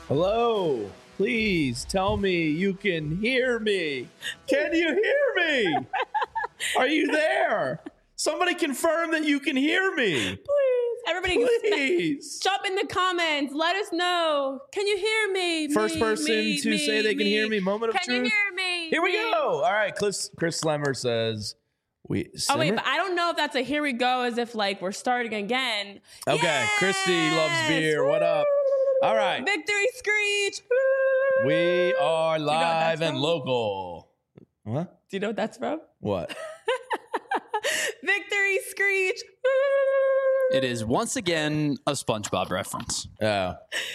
Hello, please tell me you can hear me. Can you hear me? Are you there? Somebody confirm that you can hear me. Please. Everybody Please. jump in the comments. Let us know. Can you hear me? First person to say they can hear me. Moment of truth. Can you hear me? Here we go. All right. Chris Slemmer says Oh, wait, but I don't know if that's a here we go as if like we're starting again. Okay. Yes! Christy loves beer. What up? All right. Victory screech. We are live and local. What? Do you know what that's from? What? Victory screech. It is once again a SpongeBob reference. No,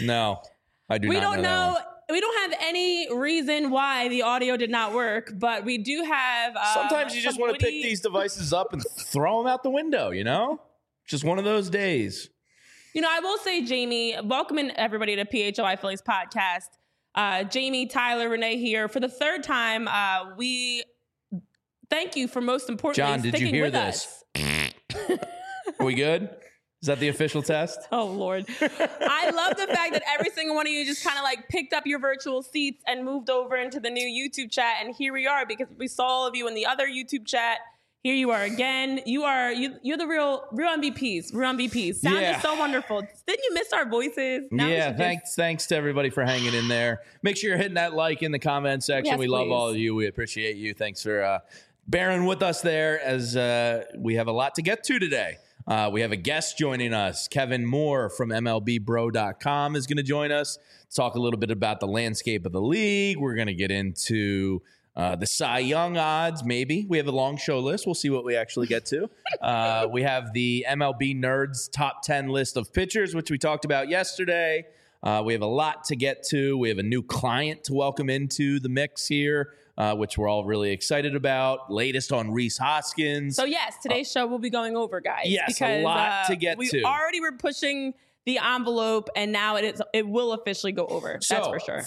I do not know. We don't that know. one. We don't have any reason why the audio did not work, but we do have. Sometimes you just want to pick these devices up and throw them out the window, you know? Just one of those days. You know, I will say, Jamie, welcoming everybody to PHLI Phillies podcast. Jamie, Tyler, Renee here for the third time. We thank you for most importantly John, did you sticking hear with this? us. Are we good? Is that the official test? Oh, Lord. I love the fact that every single one of you just kind of like picked up your virtual seats and moved over into the new YouTube chat. And here we are because we saw all of you in the other YouTube chat. Here you are again. You're the real MVPs. Real MVPs. Sound is so wonderful. Didn't you miss our voices? Now thanks to everybody for hanging in there. Make sure you're hitting that like in the comment section. Yes, we love please. all of you. We appreciate you. Thanks for bearing with us there as we have a lot to get to today. We have a guest joining us. Kevin Moore from MLBBro.com is going to join us. Talk a little bit about the landscape of the league. We're going to get into the Cy Young odds, maybe. We have a long show list. We'll see what we actually get to. We have the MLB Nerds top 10 list of pitchers, which we talked about yesterday. We have a lot to get to. We have a new client to welcome into the mix here, which we're all really excited about. Latest on Rhys Hoskins. So, yes, today's show will be going over, guys. Yes, because, a lot to get we to. We already were pushing the envelope, and now it will officially go over. That's for sure.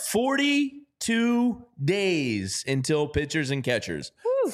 42 days until pitchers and catchers. Whew.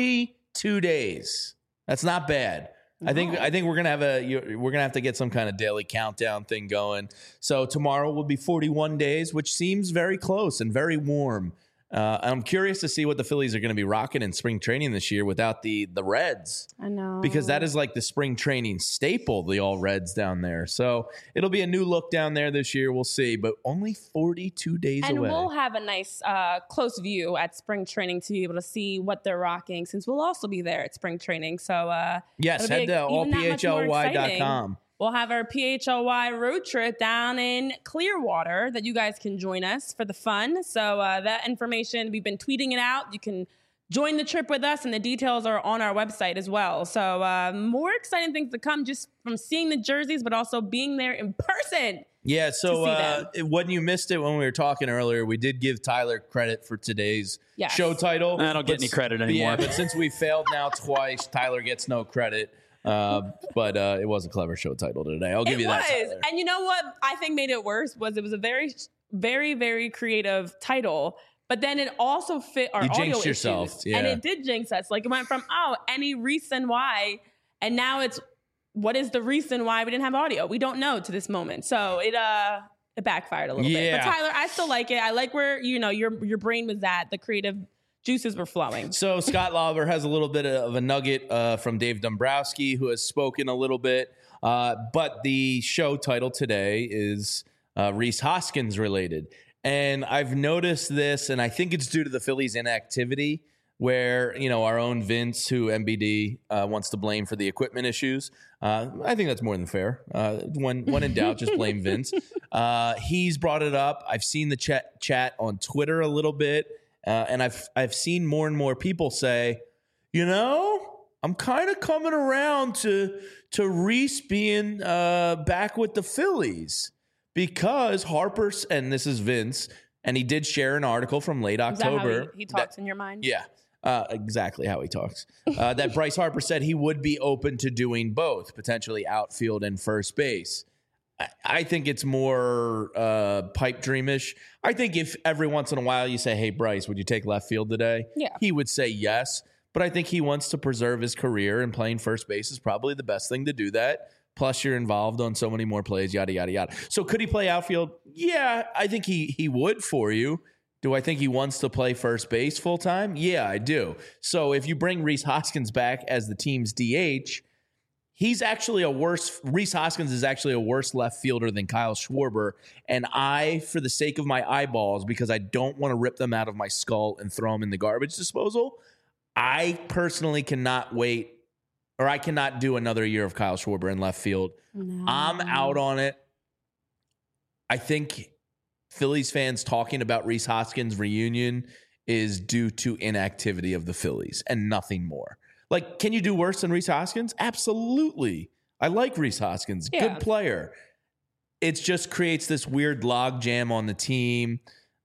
42 days. That's not bad. No. I think we're gonna have to get some kind of daily countdown thing going. So tomorrow will be 41 days, which seems very close and very warm. I'm curious to see what the Phillies are going to be rocking in spring training this year without the Reds. I know. Because that is like the spring training staple, the all Reds down there. So it'll be a new look down there this year. We'll see. But only 42 days away. And we'll have a nice close view at spring training to be able to see what they're rocking since we'll also be there at spring training. So yes, head to allphly.com. We'll have our PHLY road trip down in Clearwater that you guys can join us for the fun. So that information, we've been tweeting it out. You can join the trip with us, and the details are on our website as well. So more exciting things to come just from seeing the jerseys, but also being there in person. Yeah, so when you missed it when we were talking earlier, we did give Tyler credit for today's show title. I don't get any credit anymore. Yeah, but since we failed now twice, Tyler gets no credit. But it was a clever show title today. I'll give you that. Tyler. And you know what I think made it worse was it was a very, very, very creative title. But then it also fit our audio jinxed issues. Yourself. Yeah. And it did jinx us. Like it went from, any reason why. And now it's, what is the reason why we didn't have audio? We don't know to this moment. So it backfired a little bit. But Tyler, I still like it. I like where, your brain was at. The creative juices were flowing. So Scott Lauber has a little bit of a nugget from Dave Dombrowski, who has spoken a little bit. But the show title today is Rhys Hoskins related. And I've noticed this, and I think it's due to the Phillies' inactivity, where, our own Vince, who MBD wants to blame for the equipment issues. I think that's more than fair. When in doubt, just blame Vince. He's brought it up. I've seen the chat on Twitter a little bit. And I've seen more and more people say, I'm kind of coming around to Rhys being back with the Phillies because Harper's, and this is Vince, and he did share an article from late October. Is that how he talks in your mind? Yeah, exactly how he talks. That Bryce Harper said he would be open to doing both, potentially outfield and first base. I think it's more pipe dreamish. I think if every once in a while you say, hey, Bryce, would you take left field today? Yeah. He would say yes. But I think he wants to preserve his career, and playing first base is probably the best thing to do that Plus, you're involved on so many more plays, yada, yada, yada. So could he play outfield? Yeah, I think he would for you. Do I think he wants to play first base full time? Yeah, I do. So if you bring Rhys Hoskins back as the team's DH, Rhys Hoskins is actually a worse left fielder than Kyle Schwarber. And for the sake of my eyeballs, because I don't want to rip them out of my skull and throw them in the garbage disposal, I personally cannot wait, or I cannot do another year of Kyle Schwarber in left field. No. I'm out on it. I think Phillies fans talking about Rhys Hoskins' reunion is due to inactivity of the Phillies and nothing more. Like, can you do worse than Rhys Hoskins? Absolutely. I like Rhys Hoskins. Yeah. Good player. It just creates this weird log jam on the team.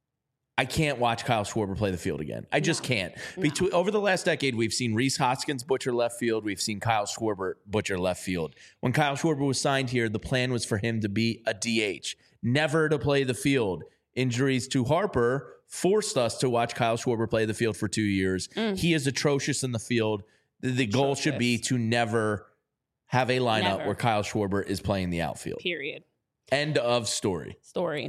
I can't watch Kyle Schwarber play the field again. I just can't. Over the last decade, we've seen Rhys Hoskins butcher left field. We've seen Kyle Schwarber butcher left field. When Kyle Schwarber was signed here, the plan was for him to be a DH, never to play the field. Injuries to Harper forced us to watch Kyle Schwarber play the field for 2 years. He is atrocious in the field. The goal should be to never have a lineup where Kyle Schwarber is playing the outfield. Period. End of story.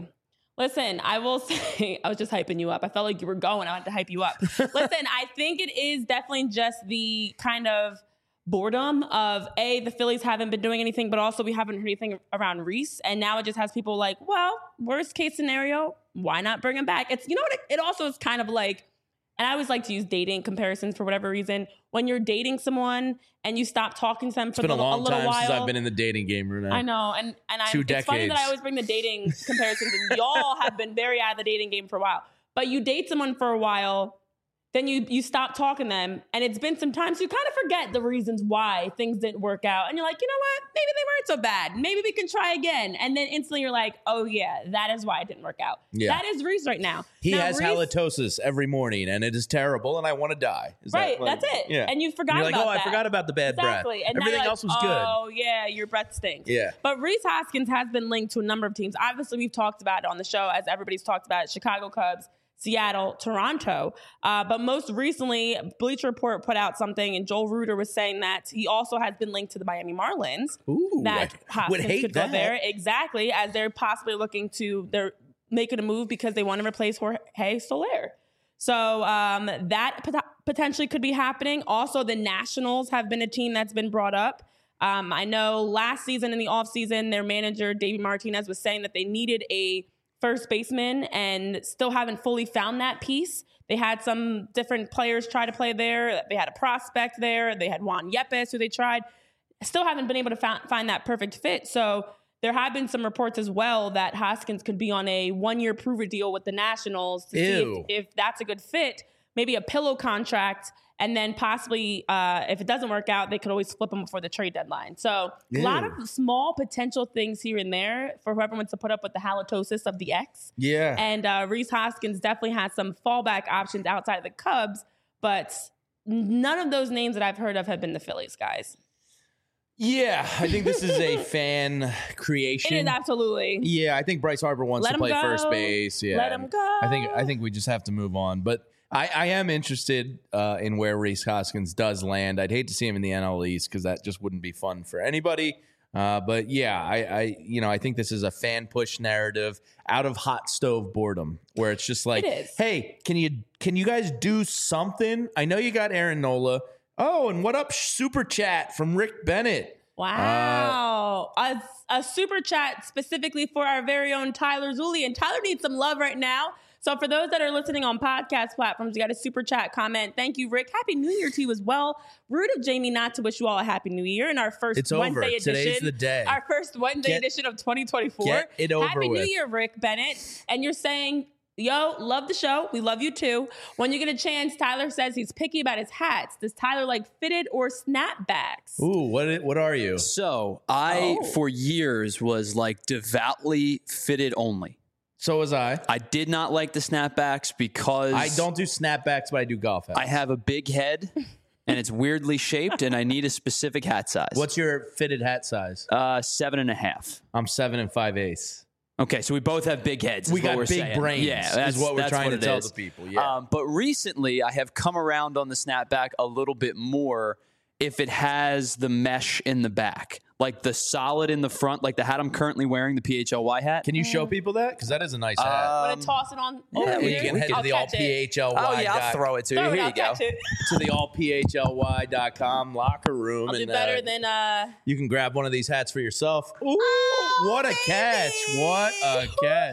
Listen, I will say, I was just hyping you up. I felt like you were going. I wanted to hype you up. Listen, I think it is definitely just the kind of boredom of, the Phillies haven't been doing anything, but also we haven't heard anything around Rhys. And now it just has people like, well, worst case scenario, why not bring him back? It's, you know what, it also is kind of like, and I always like to use dating comparisons for whatever reason. When you're dating someone and you stop talking to them for a little while. It's been a long time since I've been in the dating game, Renee. I know. And it's funny that I always bring the dating comparisons, and y'all have been very out of the dating game for a while. But you date someone for a while, then you stop talking to them, and it's been some time, so you kind of forget the reasons why things didn't work out. And you're like, you know what? Maybe they weren't so bad. Maybe we can try again. And then instantly you're like, oh yeah, that is why it didn't work out. Yeah. That is Rhys right now. He has halitosis every morning, and it is terrible, and I want to die. That's it. Yeah. And you forgot about that. I forgot about the bad breath. And everything else was good. Oh yeah, your breath stinks. Yeah. But Rhys Hoskins has been linked to a number of teams. Obviously, we've talked about it on the show, as everybody's talked about it. Chicago Cubs, Seattle, Toronto. But most recently, Bleacher Report put out something, and Joel Reuter was saying that he also has been linked to the Miami Marlins. Ooh, that Hoskins could go there. Exactly, as they're possibly they're making a move because they want to replace Jorge Soler. So that potentially could be happening. Also, the Nationals have been a team that's been brought up. I know last season in the offseason, their manager, Davey Martinez, was saying that they needed a first baseman and still haven't fully found that piece. They had some different players try to play there. They had a prospect there. They had Juan Yepes, who they tried. Still haven't been able to find that perfect fit. So there have been some reports as well that Hoskins could be on a 1-year prover deal with the Nationals to see if that's a good fit. Maybe a pillow contract, and then possibly if it doesn't work out, they could always flip him before the trade deadline. So a lot of small potential things here and there for whoever wants to put up with the halitosis of the ex. Yeah. And Rhys Hoskins definitely has some fallback options outside of the Cubs, but none of those names that I've heard of have been the Phillies, guys. Yeah, I think this is a fan creation. It is absolutely. Yeah, I think Bryce Harper wants to play first base. Yeah, let him go. I think we just have to move on. But I am interested in where Rhys Hoskins does land. I'd hate to see him in the NL East because that just wouldn't be fun for anybody. But yeah, I think this is a fan push narrative out of hot stove boredom, where it's just like, hey, can you guys do something? I know you got Aaron Nola. Oh, and what up, super chat from Rick Bennett? Wow, a super chat specifically for our very own Tyler Zulian. Tyler needs some love right now. So for those that are listening on podcast platforms, you got a super chat comment. Thank you, Rick. Happy New Year to you as well. Rude of Jamie not to wish you all a happy New Year in our first Wednesday edition. Today's the day. Our first Wednesday edition of 2024. Get it over Happy with. New Year, Rick Bennett. And you're saying, yo, love the show. We love you too. When you get a chance, Tyler says he's picky about his hats. Does Tyler like fitted or snapbacks? Ooh, what are you? So I, for years, was like devoutly fitted only. So was I. I did not like the snapbacks because I don't do snapbacks, but I do golf hats. I have a big head and it's weirdly shaped, and I need a specific hat size. What's your fitted hat size? 7.5. I'm 7 5/8. Okay, so we both have big heads. We got big saying. brains. Yeah, that's what we're trying to tell the people. Yeah. But recently, I have come around on the snapback a little bit more if it has the mesh in the back. like the solid in the front, like the hat I'm currently wearing, the PHLY hat. Can you show people that? Because that is a nice hat. I'm going to toss it on over You here. can head to I'll the catch it. allphly. Oh yeah, I'll throw it to you. Throw it, Here I'll you go. catch it. To the allphly.com locker room. I'll do and better than you can grab one of these hats for yourself. Ooh, what a baby. catch. What a catch.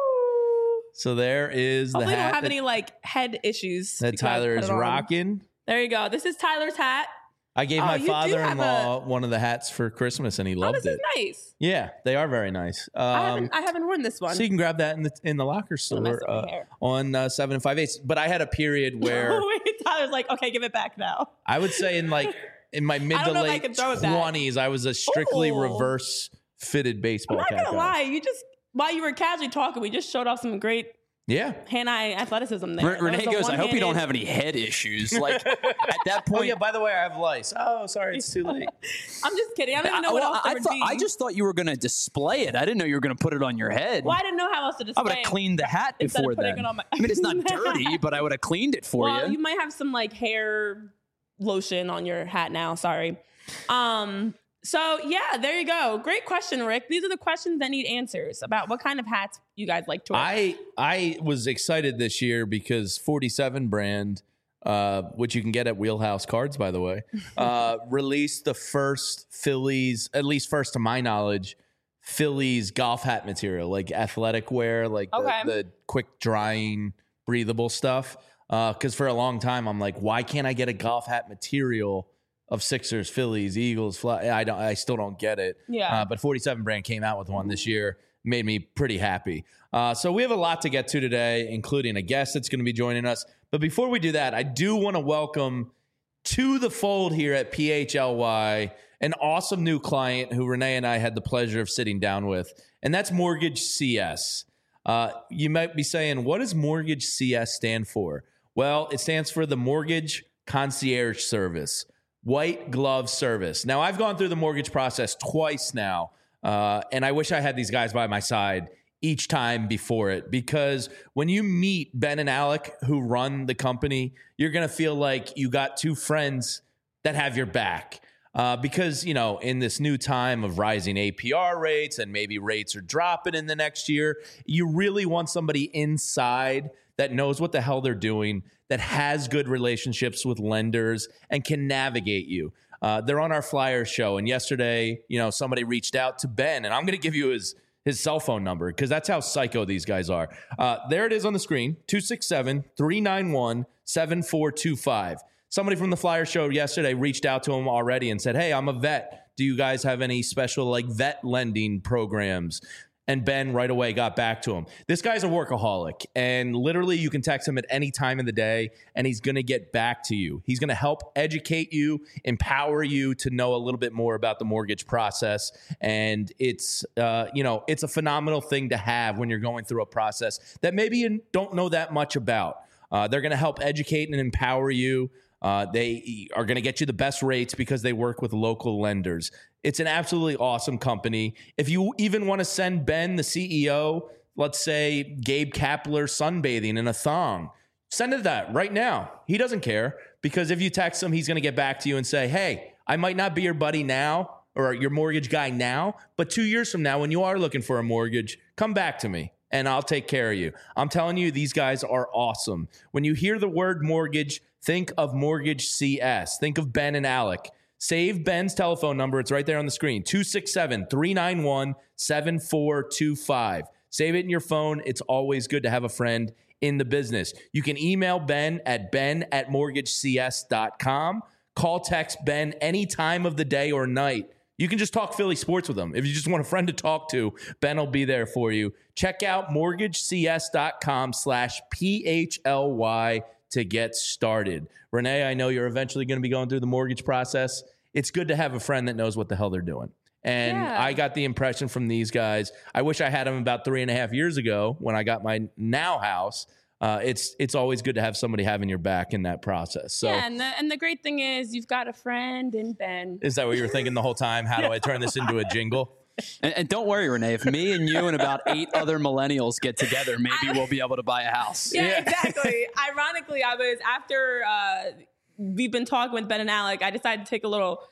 So there is the Hopefully we hat don't have that, any like head issues. that because I Tyler put is it on. rocking. There you go. This is Tyler's hat. I gave Oh, my you do have father-in-law one of the hats for Christmas, and he Oh, loved this it. is nice. Yeah, they are very nice. I haven't worn this one. So you can grab that in the locker mess store with my hair. on 7 5/8. But I had a period where Wait, Tyler's like, okay, give it back now. I would say in my mid I to don't know if I late can throw it back. 20s, I was a strictly Ooh. reverse fitted baseball I'm not cap gonna guy. lie. You just while you were casually talking, we just showed off some great Yeah. hand-eye athleticism there. That Renee was the goes, I hope you don't one-handed- have any head issues. Like at that point, Oh yeah. By the way, I have lice. Oh, sorry, it's too late. I'm just kidding. I don't even know what else there would be. I just thought you were going to display it. I didn't know you were going to put it on your head. Well, I didn't know how else to I display would have it. cleaned the hat Instead of before putting then. it on my- I mean, it's not dirty, but I would have cleaned it for Well, you. you might have some like hair lotion on your hat now. Sorry. So yeah, there you go. Great question, Rick. These are the questions that need answers about what kind of hats you guys like to wear. I was excited this year because 47 brand, which you can get at Wheelhouse Cards, by the way, released the first Phillies, at least first to my knowledge, Phillies golf hat material, like athletic wear, like Okay. the quick drying, breathable stuff. Because for a long time, I'm like, why can't I get a golf hat material of Sixers, Phillies, Eagles? I still don't get it. Yeah. But 47 brand came out with one this year, made me pretty happy. So we have a lot to get to today, including a guest that's going to be joining us. But before we do that, I do want to welcome to the fold here at PHLY an awesome new client who Renee and I had the pleasure of sitting down with, and that's Mortgage CS. You might be saying, what does Mortgage CS stand for? Well, it stands for the Mortgage Concierge Service, white glove service. Now, I've gone through the mortgage process twice now, and I wish I had these guys by my side each time before it, because when you meet Ben and Alec, who run the company, you're going to feel like you got two friends that have your back. Because, you know, in this new time of rising APR rates and maybe rates are dropping in the next year, you really want somebody inside that knows what the hell they're doing, that has good relationships with lenders and can navigate you. They're on our Flyers show. And yesterday, you know, somebody reached out to Ben, and I'm going to give you his cell phone number because that's how psycho these guys are. There it is on the screen, 267-391-7425. Somebody from the Flyer show yesterday reached out to him already and said, hey, I'm a vet. Do you guys have any special like vet lending programs? And Ben right away got back to him. This guy's a workaholic, and literally you can text him at any time of the day, and he's going to get back to you. He's going to help educate you, empower you to know a little bit more about the mortgage process. And it's, it's a phenomenal thing to have when you're going through a process that maybe you don't know that much about. They're going to help educate and empower you. They are going to get you the best rates because they work with local lenders. It's an absolutely awesome company. If you even want to send Ben, the CEO, let's say Gabe Kapler sunbathing in a thong, send it that right now. He doesn't care, because if you text him, he's going to get back to you and say, hey, I might not be your buddy now or your mortgage guy now, but 2 years from now, when you are looking for a mortgage, come back to me and I'll take care of you. I'm telling you, these guys are awesome. When you hear the word mortgage, think of Mortgage CS. Think of Ben and Alec. Save Ben's telephone number. It's right there on the screen, 267-391-7425. Save it in your phone. It's always good to have a friend in the business. You can email Ben at ben@mortgagecs.com. Call, text Ben any time of the day or night. You can just talk Philly sports with him. If you just want a friend to talk to, Ben will be there for you. Check out mortgagecs.com/PHLY to get started. Renee, I know you're eventually going to be going through the mortgage process. It's good to have a friend that knows what the hell they're doing. And Yeah. I got the impression from these guys. I wish I had them about 3.5 years ago when I got my now house. It's always good to have somebody having your back in that process. So Yeah, and the great thing is you've got a friend in Ben. is that what you were thinking the whole time? How do I turn this into a jingle? And don't worry, Renee, if me and you and about 8 other millennials get together, maybe we'll be able to buy a house. Yeah, exactly. Ironically, I was after we've been talking with Ben and Alec, I decided to take a little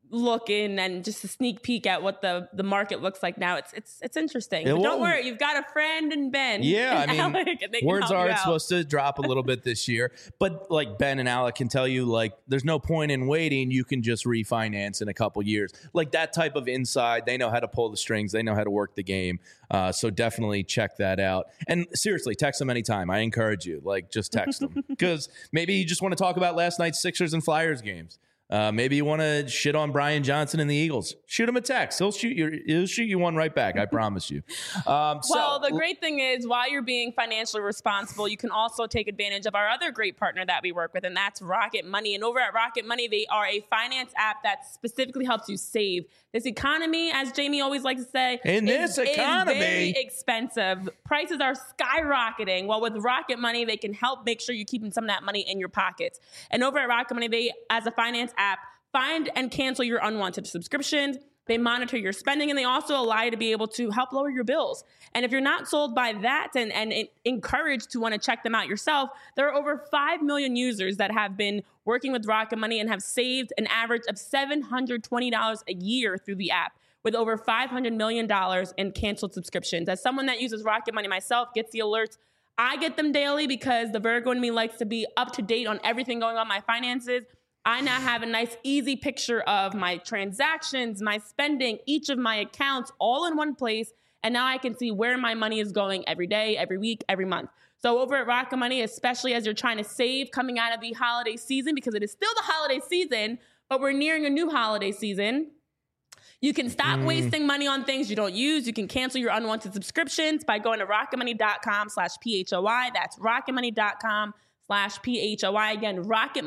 look in and just a sneak peek at what the market looks like now. It's interesting. But Well, don't worry, you've got a friend in Ben. Yeah, and I mean, Alec, and they can words help you are out. supposed to drop a little bit this year, but like Ben and Alec can tell you, like, there's no point in waiting. You can just refinance in a couple years. Like that type of inside, they know how to pull the strings. They know how to work the game. So definitely check that out. And seriously, text them anytime. I encourage you, like, just text them because maybe you just want to talk about last night's Sixers and Flyers games. Maybe you want to shit on Brian Johnson and the Eagles. Shoot him a text. He'll shoot you one right back. I promise you. Well, the great thing is, while you're being financially responsible, you can also take advantage of our other great partner that we work with, and that's Rocket Money. And over at Rocket Money, they are a finance app that specifically helps you save. This economy, as Jamie always likes to say, is very expensive. Prices are skyrocketing. Well, with Rocket Money, they can help make sure you're keeping some of that money in your pockets. And over at Rocket Money, they, as a finance app, find and cancel your unwanted subscriptions. They monitor your spending, and they also allow you to be able to help lower your bills. And if you're not sold by that and encouraged to want to check them out yourself, there are over 5 million users that have been working with Rocket Money and have saved an average of $720 a year through the app, with over $500 million in canceled subscriptions. As someone that uses Rocket Money myself, gets the alerts, I get them daily because the Virgo in me likes to be up to date on everything going on in my finances. I now have a nice, easy picture of my transactions, my spending, each of my accounts all in one place. And now I can see where my money is going every day, every week, every month. So over at Rocket Money, especially as you're trying to save coming out of the holiday season, because it is still the holiday season, but we're nearing a new holiday season, you can stop wasting money on things you don't use. You can cancel your unwanted subscriptions by going to rocketmoney.com/PHOI. That's rocketmoney.com/PHOI. Again,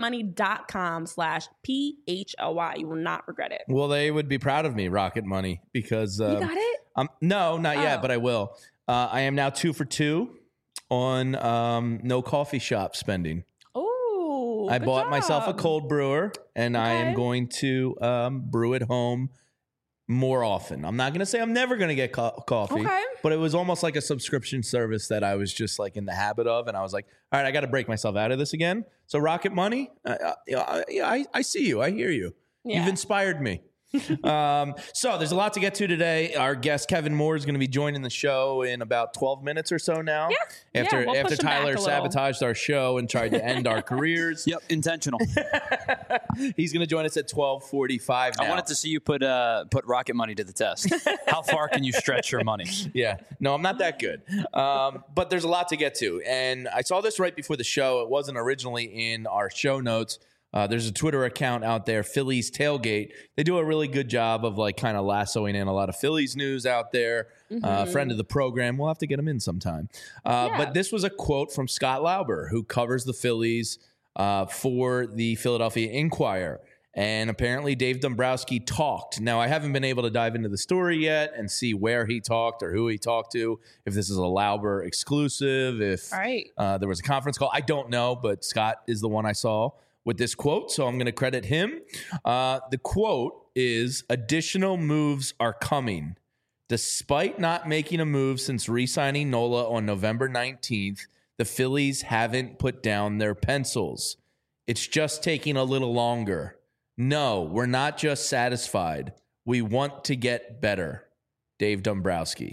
rocketmoney.com/PHOI. You will not regret it. Well, they would be proud of me, Rocket Money, because You got it? no, not yet, but I will. I am now 2 for 2 on no coffee shop spending. Oh, I bought myself a cold brewer, and I am going to brew at home more often. I'm not going to say I'm never going to get coffee, but it was almost like a subscription service that I was just like in the habit of. And I was like, all right, I got to break myself out of this again. So Rocket Money, I see you. I hear you. Yeah. You've inspired me. So there's a lot to get to today. Our guest Kevin Moore is going to be joining the show in about 12 minutes or so now. Yeah. After Tyler sabotaged our show and tried to end our careers. Yep, intentional. He's going to join us at 12:45 now. I wanted to see you put Rocket Money to the test. How far can you stretch your money? Yeah. No, I'm not that good. But there's a lot to get to. And I saw this right before the show. It wasn't originally in our show notes. There's a Twitter account out there, Phillies Tailgate. They do a really good job of like kind of lassoing in a lot of Phillies news out there. Friend of the program. We'll have to get him in sometime. But this was a quote from Scott Lauber, who covers the Phillies for the Philadelphia Inquirer. And apparently Dave Dombrowski talked. Now, I haven't been able to dive into the story yet and see where he talked or who he talked to, if this is a Lauber exclusive, if there was a conference call. I don't know, but Scott is the one I saw with this quote, so I'm going to credit him. The quote is, "Additional moves are coming. Despite not making a move since re-signing Nola on November 19th, the Phillies haven't put down their pencils. It's just taking a little longer. No, we're not just satisfied. We want to get better." Dave Dombrowski.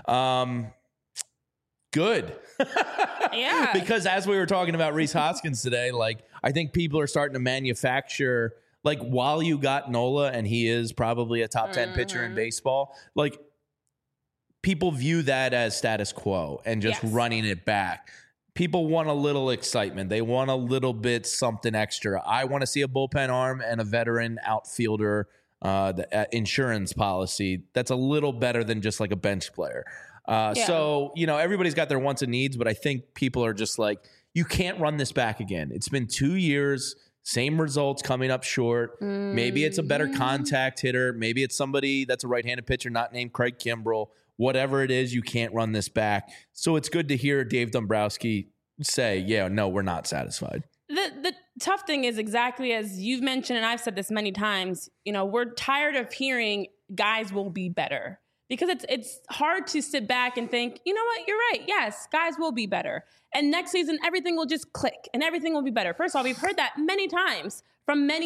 Good. Yeah. Because as we were talking about Rhys Hoskins today, like, I think people are starting to manufacture, like, while you got Nola and he is probably a top 10 pitcher in baseball, like, people view that as status quo and just running it back. People want a little excitement. They want a little bit something extra. I want to see a bullpen arm and a veteran outfielder the insurance policy that's a little better than just like a bench player. So, you know, everybody's got their wants and needs, but I think people are just like, you can't run this back again. It's been 2 years, same results, coming up short. Maybe it's a better contact hitter. Maybe it's somebody that's a right-handed pitcher not named Craig Kimbrell. Whatever it is, you can't run this back. So it's good to hear Dave Dombrowski say, yeah, no, we're not satisfied. The tough thing is, exactly as you've mentioned, and I've said this many times, you know, we're tired of hearing guys will be better. Because it's hard to sit back and think, you know what, you're right. Yes, guys will be better. And next season, everything will just click and everything will be better. First of all, we've heard that many times from many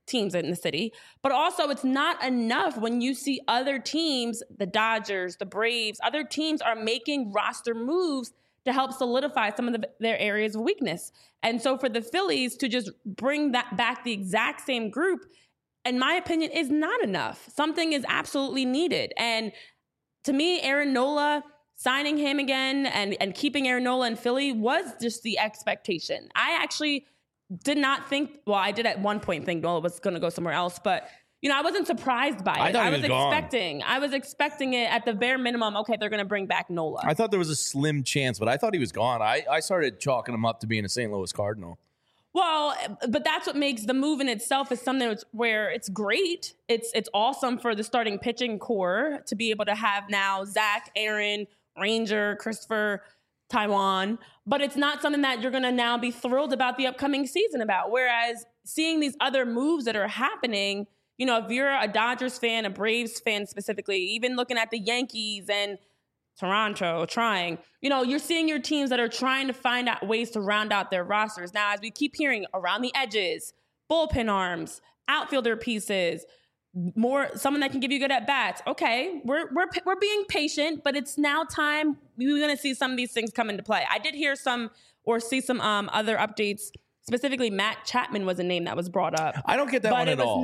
teams in the city. But also, it's not enough when you see other teams, the Dodgers, the Braves, other teams are making roster moves to help solidify some of their areas of weakness. And so for the Phillies to just bring that back, the exact same group, in my opinion, is not enough. Something is absolutely needed. And to me, Aaron Nola, signing him again and keeping Aaron Nola in Philly was just the expectation. I actually did not think, well, I did at one point think Nola was going to go somewhere else, but I wasn't surprised by it. I was expecting it at the bare minimum. Okay, they're going to bring back Nola. I thought there was a slim chance, but I thought he was gone. I started chalking him up to being a St. Louis Cardinal. Well, but that's what makes the move in itself is something where it's great. It's awesome for the starting pitching core to be able to have now Zach, Aaron, Ranger, Christopher, Taiwan, but it's not something that you're going to now be thrilled about the upcoming season about. Whereas seeing these other moves that are happening, if you're a Dodgers fan, a Braves fan specifically, even looking at the Yankees and Toronto trying, you're seeing your teams that are trying to find out ways to round out their rosters. Now, as we keep hearing, around the edges, bullpen arms, outfielder pieces, someone that can give you good at bats. Okay, we're being patient, but it's now time. We're going to see some of these things come into play. I did hear see some other updates. Specifically, Matt Chapman was a name that was brought up. I don't get that one at all.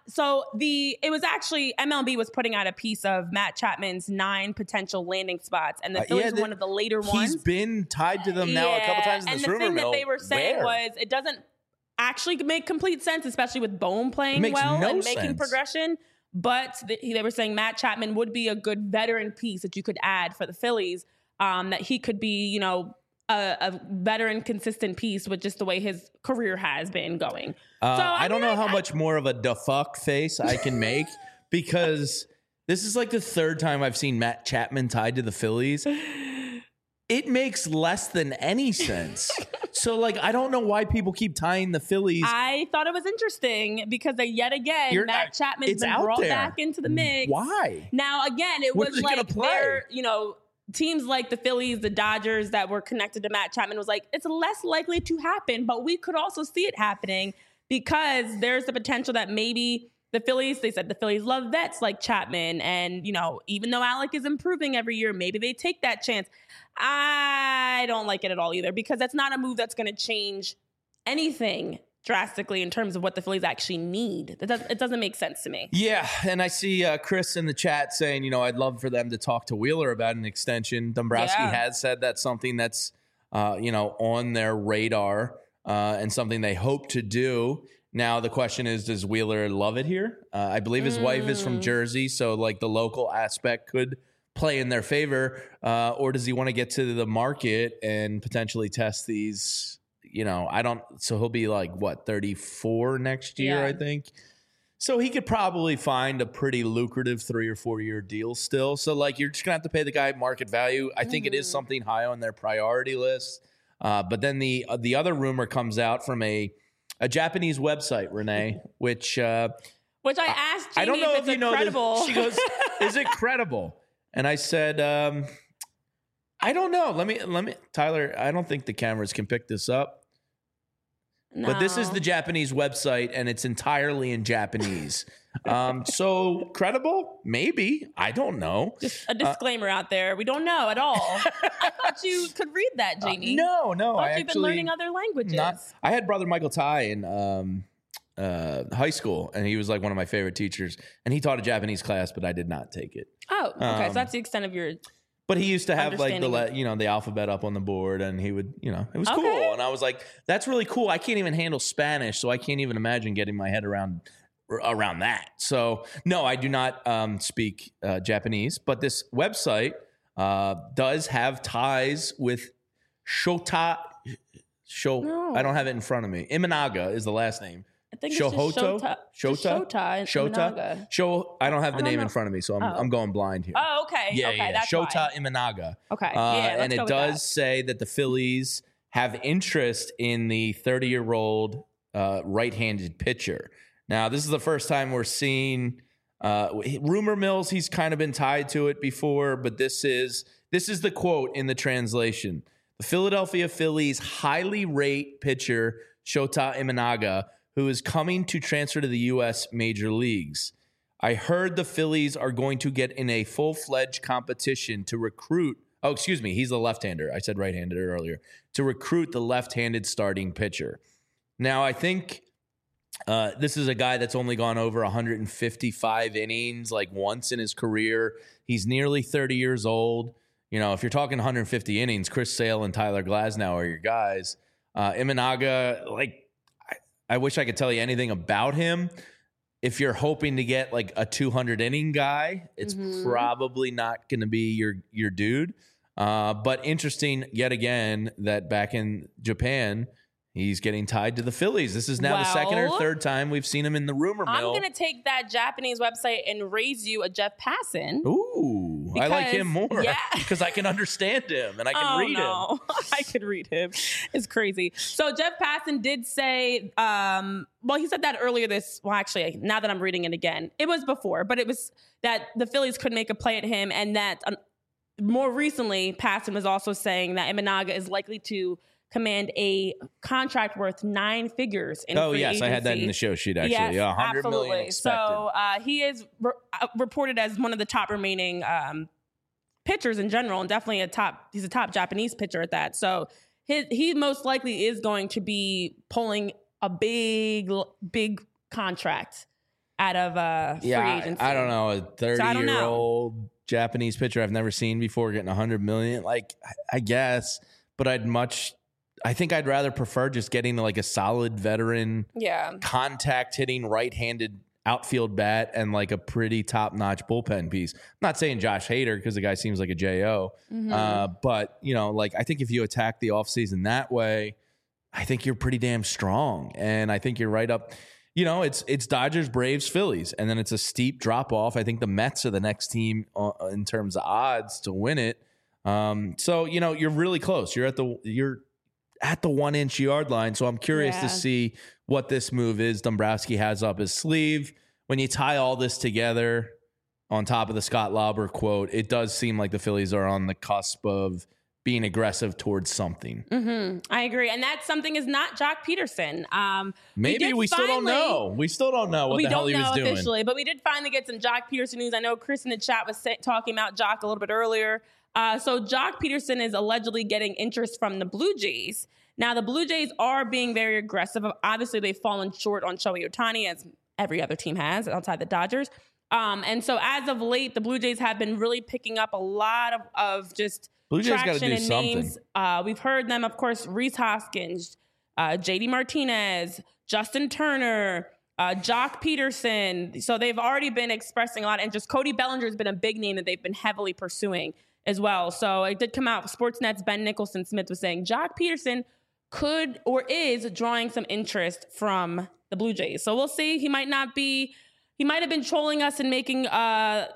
It was actually MLB was putting out a piece of Matt Chapman's 9 potential landing spots, and the Phillies were one of the later ones. He's been tied to them now a couple times in this rumor mill. And the thing that they were saying was it doesn't actually make complete sense, especially with Bohm playing well and making progression. But they were saying Matt Chapman would be a good veteran piece that you could add for the Phillies, that he could be, a veteran consistent piece with just the way his career has been going. I don't know how much more of a da fuck face I can make because this is like the third time I've seen Matt Chapman tied to the Phillies. It makes less than any sense. So, I don't know why people keep tying the Phillies. I thought it was interesting because yet again, Matt Chapman's been brought back into the mix. Why? Now, again, it was like they're, teams like the Phillies, the Dodgers that were connected to Matt Chapman was like, it's less likely to happen, but we could also see it happening because there's the potential that maybe the Phillies, they said the Phillies love vets like Chapman. And, even though Alec is improving every year, maybe they take that chance. I don't like it at all either because that's not a move that's going to change anything drastically in terms of what the Phillies actually need. It doesn't make sense to me. Yeah, and I see Chris in the chat saying, I'd love for them to talk to Wheeler about an extension. Dombrowski has said that's something that's, on their radar and something they hope to do. Now, the question is, does Wheeler love it here? I believe his wife is from Jersey, so the local aspect could play in their favor. Or does he want to get to the market and potentially test these? So he'll be 34 next year, I think. So he could probably find a pretty lucrative 3 or 4 year deal still. So you're just gonna have to pay the guy market value. I think it is something high on their priority list. But then the other rumor comes out from a Japanese website, Renee, which I asked Jeannie I don't know if you know credible. She goes, "Is it credible?" And I said, "I don't know. Let me, Tyler. I don't think the cameras can pick this up." No. But this is the Japanese website, and it's entirely in Japanese. So credible? Maybe. I don't know. Just a disclaimer out there. We don't know at all. I thought you could read that, Jamie. No. I thought you've been learning other languages. I had brother Michael Tai in high school, and he was one of my favorite teachers. And he taught a Japanese class, but I did not take it. Oh, okay. So that's the extent of your... But he used to have the alphabet up on the board, and he would, it was cool. And I was like, that's really cool. I can't even handle Spanish, so I can't even imagine getting my head around that. So no, I do not speak Japanese, but this website does have ties with Shota. No. I don't have it in front of me. Imanaga is the last name. I think it's Shota. Shota. I don't have the name in front of me, so I'm going blind here. Oh, okay. Yeah. That's Shota why. Imanaga. Okay. And it does say that the Phillies have interest in the 30-year-old right-handed pitcher. Now, this is the first time we're seeing rumor mills. He's kind of been tied to it before, but this is the quote in the translation. The Philadelphia Phillies highly rate pitcher Shota Imanaga, who is coming to transfer to the U.S. major leagues. I heard the Phillies are going to get in a full-fledged competition to recruit. Oh, excuse me. He's the left-hander. I said right-handed earlier. To recruit the left-handed starting pitcher. Now, I think this is a guy that's only gone over 155 innings like once in his career. He's nearly 30 years old. You know, if you're talking 150 innings, Chris Sale and Tyler Glasnow are your guys. Imanaga, like, I wish I could tell you anything about him. If you're hoping to get like a 200 inning guy, it's probably not going to be your dude. But interesting yet again that back in Japan, he's getting tied to the Phillies. This is now the second or third time we've seen him in the rumor mill. I'm going to take that Japanese website and raise you a Jeff Passan. Ooh, I like him more because I can understand him and I can read him. I could read him. It's crazy. So Jeff Passan did say, well, he said that earlier actually, now that I'm reading it again, it was before, but it was that the Phillies could make a play at him. And that more recently, Passan was also saying that Imanaga is likely to command a contract worth 9 figures in free agency. I had that in the show sheet, actually. Yes, $100 absolutely. million expected. So he is reported as one of the top remaining pitchers in general, and definitely he's a top Japanese pitcher at that. So he most likely is going to be pulling a big contract out of free agency. I don't know, a 30-year-old Japanese pitcher I've never seen before getting $100 million. Like, I guess, but I think I'd rather prefer just getting like a solid veteran, contact hitting right-handed outfield bat and like a pretty top-notch bullpen piece. I'm not saying Josh Hader because the guy seems like a J.O., but you know, like I think if you attack the offseason that way, I think you're pretty damn strong, and I think you're right up. You know, it's Dodgers, Braves, Phillies, and then it's a steep drop off. I think the Mets are the next team in terms of odds to win it. So you know, you're really close. You're at the 1-inch yard line. So I'm curious to see what this move is Dombrowski has up his sleeve. When you tie all this together on top of the Scott Lauber quote, it does seem like the Phillies are on the cusp of being aggressive towards something. I agree. And that something is not Jock Peterson. Maybe we still don't know. We still don't know what the hell he was doing. We don't know officially, but we did finally get some Jock Peterson news. I know Chris in the chat was talking about Jock a little bit earlier. So Jock Peterson is allegedly getting interest from the Blue Jays. Now, the Blue Jays are being very aggressive. Obviously, they've fallen short on Shohei Ohtani, as every other team has outside the Dodgers. And so as of late, the Blue Jays have been really picking up a lot of just Blue Jays traction and something. names. We've heard them, of course, Rhys Hoskins, JD Martinez, Justin Turner, Jock Peterson. So they've already been expressing a lot. And just Cody Bellinger has been a big name that they've been heavily pursuing as well. So it did come out. Sportsnet's Ben Nicholson Smith was saying Jock Peterson could or is drawing some interest from the Blue Jays. So we'll see. He might have been trolling us and making us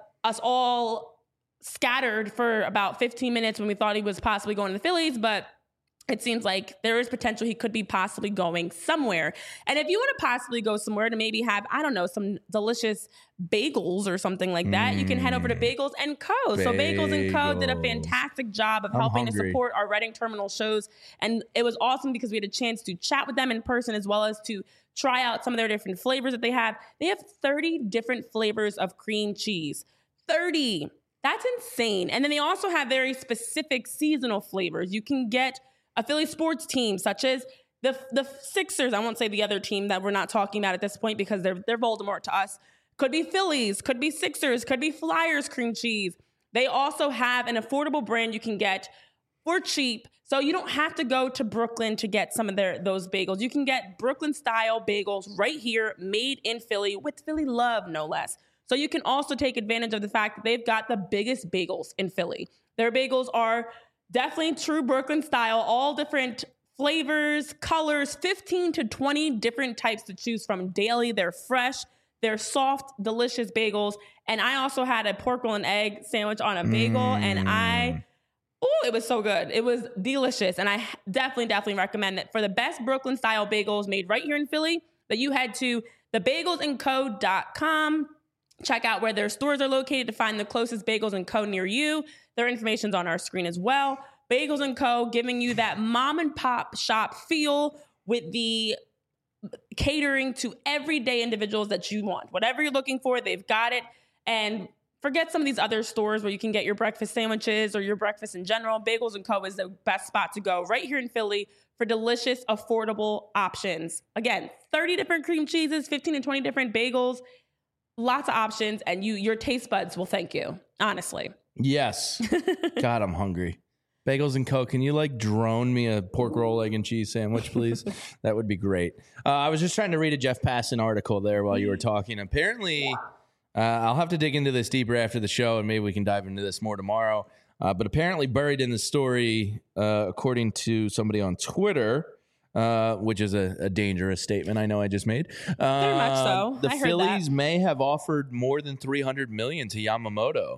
all scattered for about 15 minutes when we thought he was possibly going to the Phillies, but it seems like there is potential he could be possibly going somewhere. And if you want to possibly go somewhere to maybe have, I don't know, some delicious bagels or something like that, you can head over to Bagels & Co. So Bagels & Co. did a fantastic job of helping to support our Reading Terminal shows. And it was awesome because we had a chance to chat with them in person as well as to try out some of their different flavors that they have. They have 30 different flavors of cream cheese. 30. That's insane. And then they also have very specific seasonal flavors. You can get a Philly sports team such as the Sixers. I won't say the other team that we're not talking about at this point because they're Voldemort to us. Could be Phillies, could be Sixers, could be Flyers cream cheese. They also have an affordable brand you can get for cheap. So you don't have to go to Brooklyn to get some of those bagels. You can get Brooklyn-style bagels right here, made in Philly, with Philly love, no less. So you can also take advantage of the fact that they've got the biggest bagels in Philly. Their bagels are definitely true Brooklyn style, all different flavors, colors, 15 to 20 different types to choose from daily. They're fresh. They're soft, delicious bagels. And I also had a pork roll and egg sandwich on a bagel, and it was so good. It was delicious. And I definitely recommend that for the best Brooklyn style bagels made right here in Philly, that you head to thebagelsandco.com. Check out where their stores are located to find the closest Bagels & Co. near you. Their information's on our screen as well. Bagels & Co. giving you that mom and pop shop feel with the catering to everyday individuals that you want. Whatever you're looking for, they've got it. And forget some of these other stores where you can get your breakfast sandwiches or your breakfast in general. Bagels & Co. is the best spot to go right here in Philly for delicious, affordable options. Again, 30 different cream cheeses, 15 to 20 different bagels, lots of options, and your taste buds will thank you, honestly. Yes. God, I'm hungry. Bagels & Co. Can you drone me a pork roll, egg and cheese sandwich, please? That would be great. I was just trying to read a Jeff Passan article there while you were talking. Apparently, I'll have to dig into this deeper after the show, and maybe we can dive into this more tomorrow. But apparently buried in the story, according to somebody on Twitter, which is a dangerous statement I know I just made. Very much so. The Phillies may have offered more than $300 million to Yamamoto.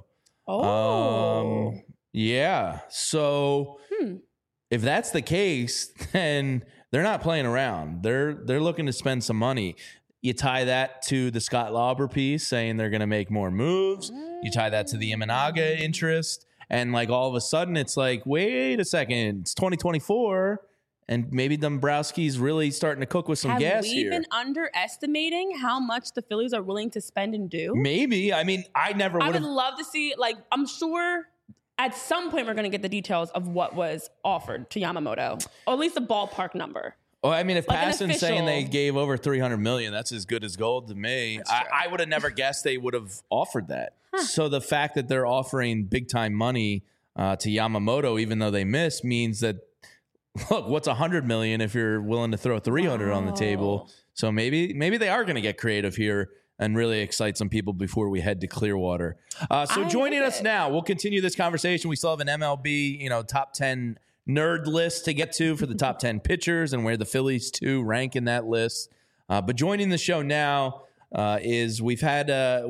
Oh. Yeah. So if that's the case, then they're not playing around. They're looking to spend some money. You tie that to the Scott Lauber piece saying they're going to make more moves. You tie that to the Imanaga interest. And all of a sudden it's wait a second, it's 2024. And maybe Dombrowski's really starting to cook with some gas here. Have we been underestimating how much the Phillies are willing to spend and do? Maybe. I mean, I would love to see, I'm sure at some point we're going to get the details of what was offered to Yamamoto, or at least a ballpark number. Well, I mean, if Passan's saying they gave over $300 million, that's as good as gold to me. I would have never guessed they would have offered that. So the fact that they're offering big time money to Yamamoto, even though they missed, means that, look, what's $100 million if you're willing to throw $300 on the table? So maybe they are going to get creative here and really excite some people before we head to Clearwater. So joining us now, we'll continue this conversation. We still have an MLB, top 10 nerd list to get to for the top 10 pitchers and where the Phillies too rank in that list. But joining the show now is we had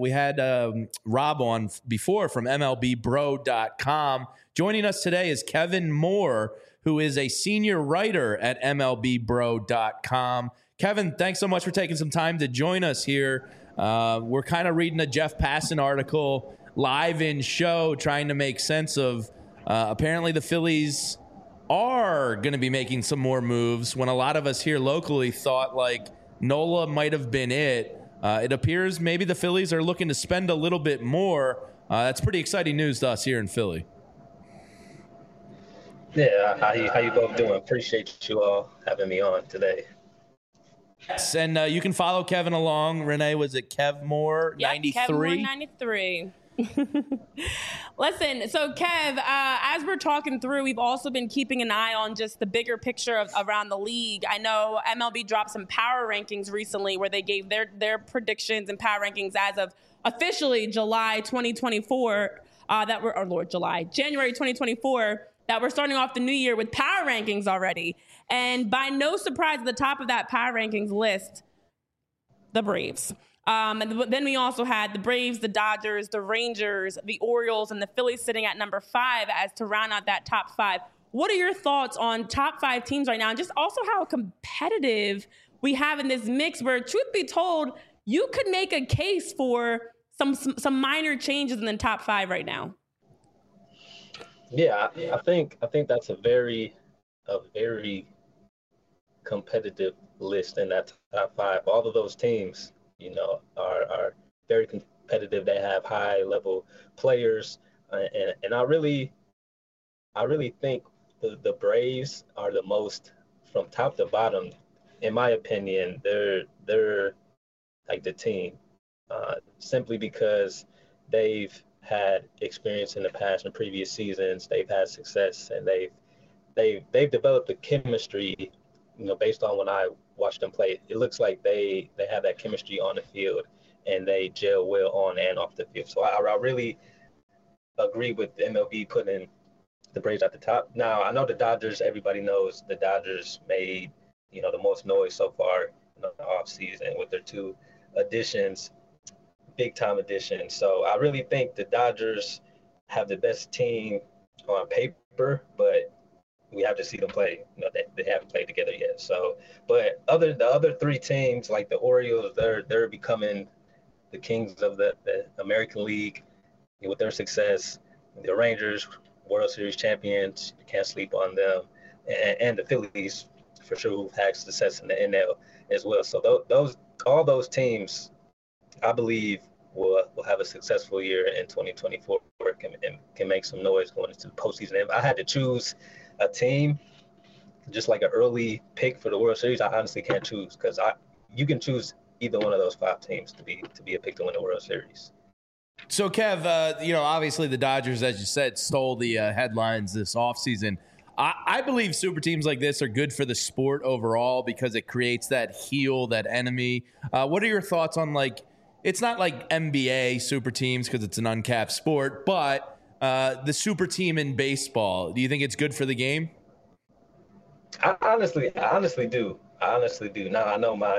Rob on before from MLBBro.com. Joining us today is Kevin Moore, who is a senior writer at MLBBro.com. Kevin, thanks so much for taking some time to join us here. We're kind of reading a Jeff Passan article live in show, trying to make sense of apparently the Phillies are going to be making some more moves when a lot of us here locally thought Nola might have been it. It appears maybe the Phillies are looking to spend a little bit more. That's pretty exciting news to us here in Philly. Yeah, how you both doing? Appreciate you all having me on today. Yes, and you can follow Kevin along. Renee, was it Kev Moore 93? Kev Moore 93. Listen, so Kev, as we're talking through, we've also been keeping an eye on just the bigger picture of around the league. I know MLB dropped some power rankings recently where they gave their predictions and power rankings as of officially July 2024. January 2024. That we're starting off the new year with power rankings already. And by no surprise, at the top of that power rankings list, the Braves. And then we also had the Braves, the Dodgers, the Rangers, the Orioles, and the Phillies sitting at number 5 as to round out that top 5. What are your thoughts on top 5 teams right now? And just also how competitive we have in this mix where, truth be told, you could make a case for some minor changes in the top 5 right now. Yeah, I think that's a very competitive list in that top 5. All of those teams, are very competitive. They have high level players, and I really think the Braves are the most, from top to bottom, in my opinion. They're like the team, simply because they've had experience in the past in previous seasons. They've had success, and they've developed a chemistry, based on when I watched them play. It looks like they have that chemistry on the field, and they gel well on and off the field. So I really agree with MLB putting the Braves at the top. Now, I know the Dodgers, everybody knows the Dodgers made, the most noise so far in the offseason with their 2 additions, big-time additions. So I really think the Dodgers have the best team on paper, but we have to see them play. They haven't played together yet. So, but the other 3 teams, like the Orioles, they're becoming the kings of the American League with their success. The Rangers, World Series champions, you can't sleep on them. And the Phillies for sure who've had success in the NL as well. So all those teams, I believe, will have a successful year in 2024 and can make some noise going into the postseason. If I had to choose a team, just like an early pick for the World Series, I honestly can't choose because you can choose either one of those 5 teams to be a pick to win the World Series. So, Kev, obviously the Dodgers, as you said, stole the headlines this offseason. I believe super teams like this are good for the sport overall because it creates that heel, that enemy. What are your thoughts on, it's not like NBA super teams because it's an uncapped sport, but the super team in baseball, do you think it's good for the game? I honestly do. Now I know my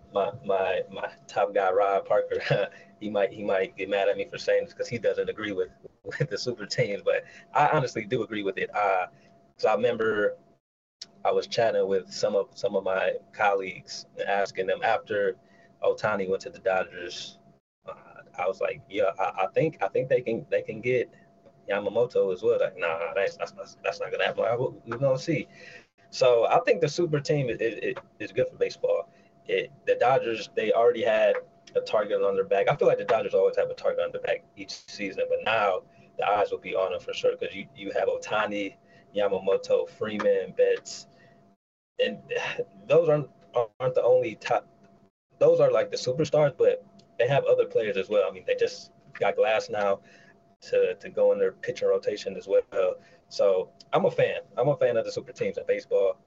top guy, Rob Parker, he might get mad at me for saying this because he doesn't agree with the super teams, but I honestly do agree with it. So I remember I was chatting with some of my colleagues and asking them after Ohtani went to the Dodgers. I was like, yeah, I think they can get Yamamoto as well. Like, nah, that's not gonna happen. We're gonna see. So I think the super team is good for baseball. The Dodgers, they already had a target on their back. I feel like the Dodgers always have a target on their back each season, but now the eyes will be on them for sure because you have Ohtani, Yamamoto, Freeman, Betts, and those aren't the only top. Those are like the superstars, but they have other players as well. I mean, they just got Glass now to go in their pitching rotation as well. So I'm a fan. I'm a fan of the super teams in baseball.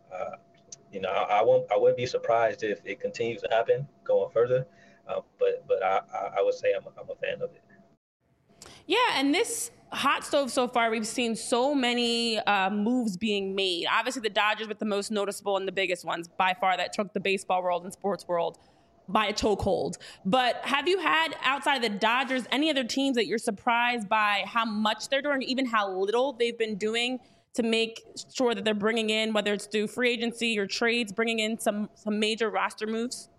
I wouldn't be surprised if it continues to happen going further. But I would say I'm a fan of it. Yeah, and this hot stove so far, we've seen so many moves being made. Obviously, the Dodgers with the most noticeable and the biggest ones by far that took the baseball world and sports world by a chokehold. But have you had, outside of the Dodgers, any other teams that you're surprised by how much they're doing, even how little they've been doing to make sure that they're bringing in, whether it's through free agency or trades, bringing in some major roster moves?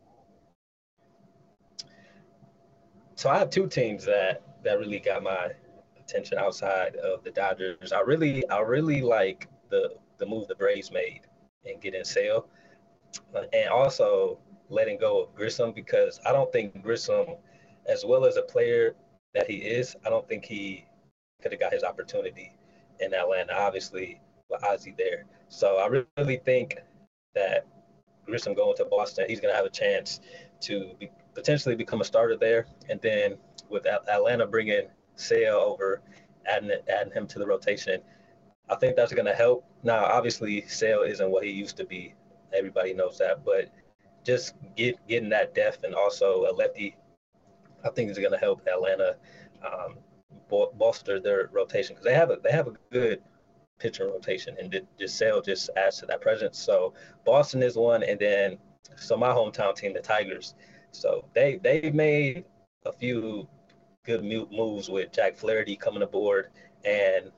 So I have 2 teams that really got my attention outside of the Dodgers. I really like the move the Braves made in getting Sale, and also letting go of Grissom, because I don't think Grissom, as well as a player that he is, I don't think he could have got his opportunity in Atlanta, obviously with Ozzie there. So I really think that Grissom going to Boston, he's going to have a chance to potentially become a starter there. And then with Atlanta bringing Sale over, adding him to the rotation, I think that's going to help. Now, obviously, Sale isn't what he used to be. Everybody knows that. But just getting that depth and also a lefty, I think is going to help Atlanta bolster their rotation because they have a good pitcher rotation, and just Sale just adds to that presence. So Boston is one, and then my hometown team, the Tigers. So they've made a few good moves with Jack Flaherty coming aboard and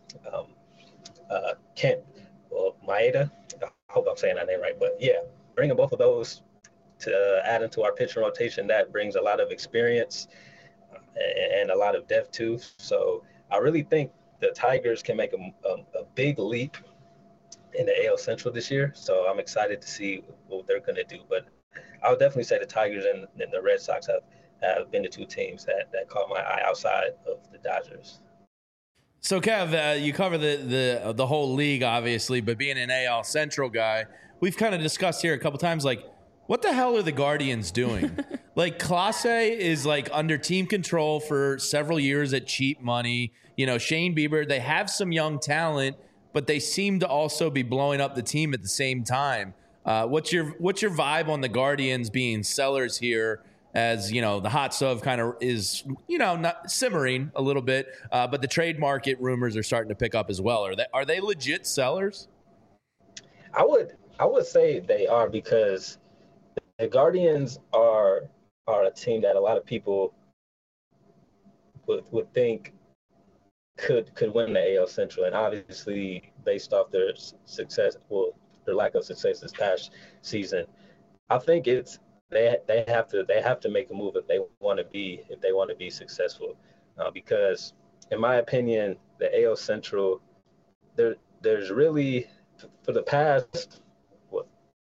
Maeda. I hope I'm saying that name right, but yeah, bringing both of those to add into our pitching rotation, that brings a lot of experience and a lot of depth too. So I really think the Tigers can make a big leap in the AL Central this year. So I'm excited to see what they're going to do. But I would definitely say the Tigers and the Red Sox have been the 2 teams that caught my eye outside of the Dodgers. So, Kev, you cover the whole league, obviously, but being an AL Central guy, we've kind of discussed here a couple times, what the hell are the Guardians doing? Clase is under team control for several years at cheap money. Shane Bieber, they have some young talent, but they seem to also be blowing up the team at the same time. What's your vibe on the Guardians being sellers here? As the hot stove kind of is, not simmering a little bit, but the trade market rumors are starting to pick up as well. Are they legit sellers? I would say they are, because the Guardians are a team that a lot of people would think could win the AL Central, and obviously based off their their lack of success this past season, I think they have to make a move if they want to be successful, because in my opinion the AL Central, there's really, for the past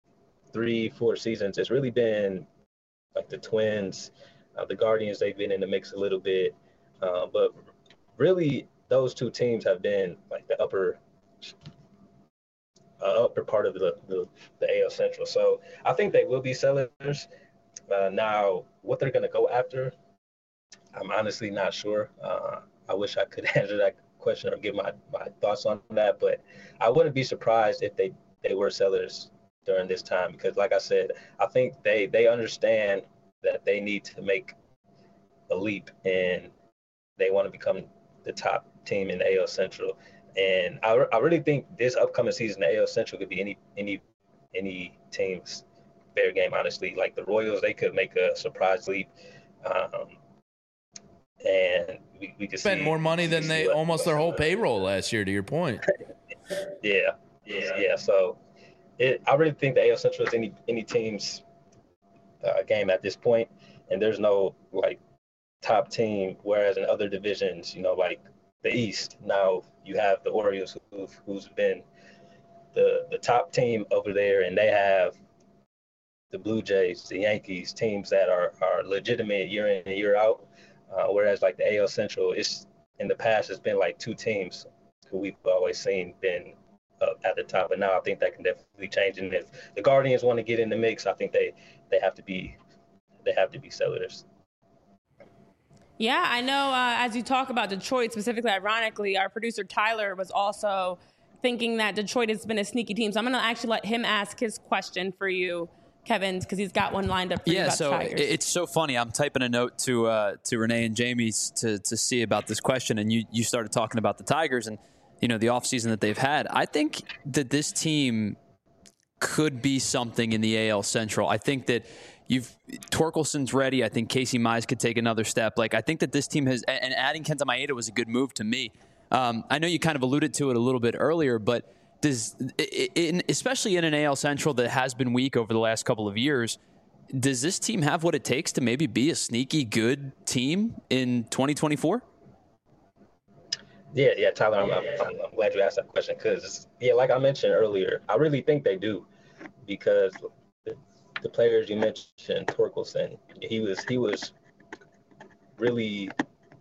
3-4 seasons, it's really been like the Twins, the Guardians. They've been in the mix a little bit, but really those two teams have been like the upper part of the AL Central. So I think they will be sellers. Now, what they're going to go after, I'm honestly not sure. I wish I could answer that question or give my thoughts on that, but I wouldn't be surprised if they were sellers during this time, because like I said, I think they understand that they need to make a leap and they want to become the top team in the AL Central. And I really think this upcoming season, the AL Central could be any team's fair game, honestly. Like the Royals, they could make a surprise leap. And we could spend more money than they almost their whole payroll last year, to your point. Yeah. So I really think the AL Central is any team's game at this point, and there's no like top team. Whereas in other divisions, like the East, now you have the Orioles, who's been the top team over there, and they have the Blue Jays, the Yankees, teams that are legitimate year in and year out. Whereas like the AL Central, it's in the past it's been like two teams who we've always seen been at the top, and now I think that can definitely change. And if the Guardians want to get in the mix, I think they have to be sellers. Yeah, I know. As you talk about Detroit specifically, ironically, our producer Tyler was also thinking that Detroit has been a sneaky team. So I'm going to actually let him ask his question for you, Kevin, because he's got one lined up for you about the Tigers. It's so funny. I'm typing a note to Renee and Jamie to see about this question, and you started talking about the Tigers and the offseason that they've had. I think that this team could be something in the AL Central. I think that Torkelson's ready. I think Casey Mize could take another step. Like, I think that this team has, and adding Kenta Maeda was a good move to me. I know you kind of alluded to it a little bit earlier, but especially in an AL Central that has been weak over the last couple of years, does this team have what it takes to maybe be a sneaky good team in 2024? Yeah, Tyler, I'm glad you asked that question because, like I mentioned earlier, I really think they do, because the players you mentioned, Torkelson, he was really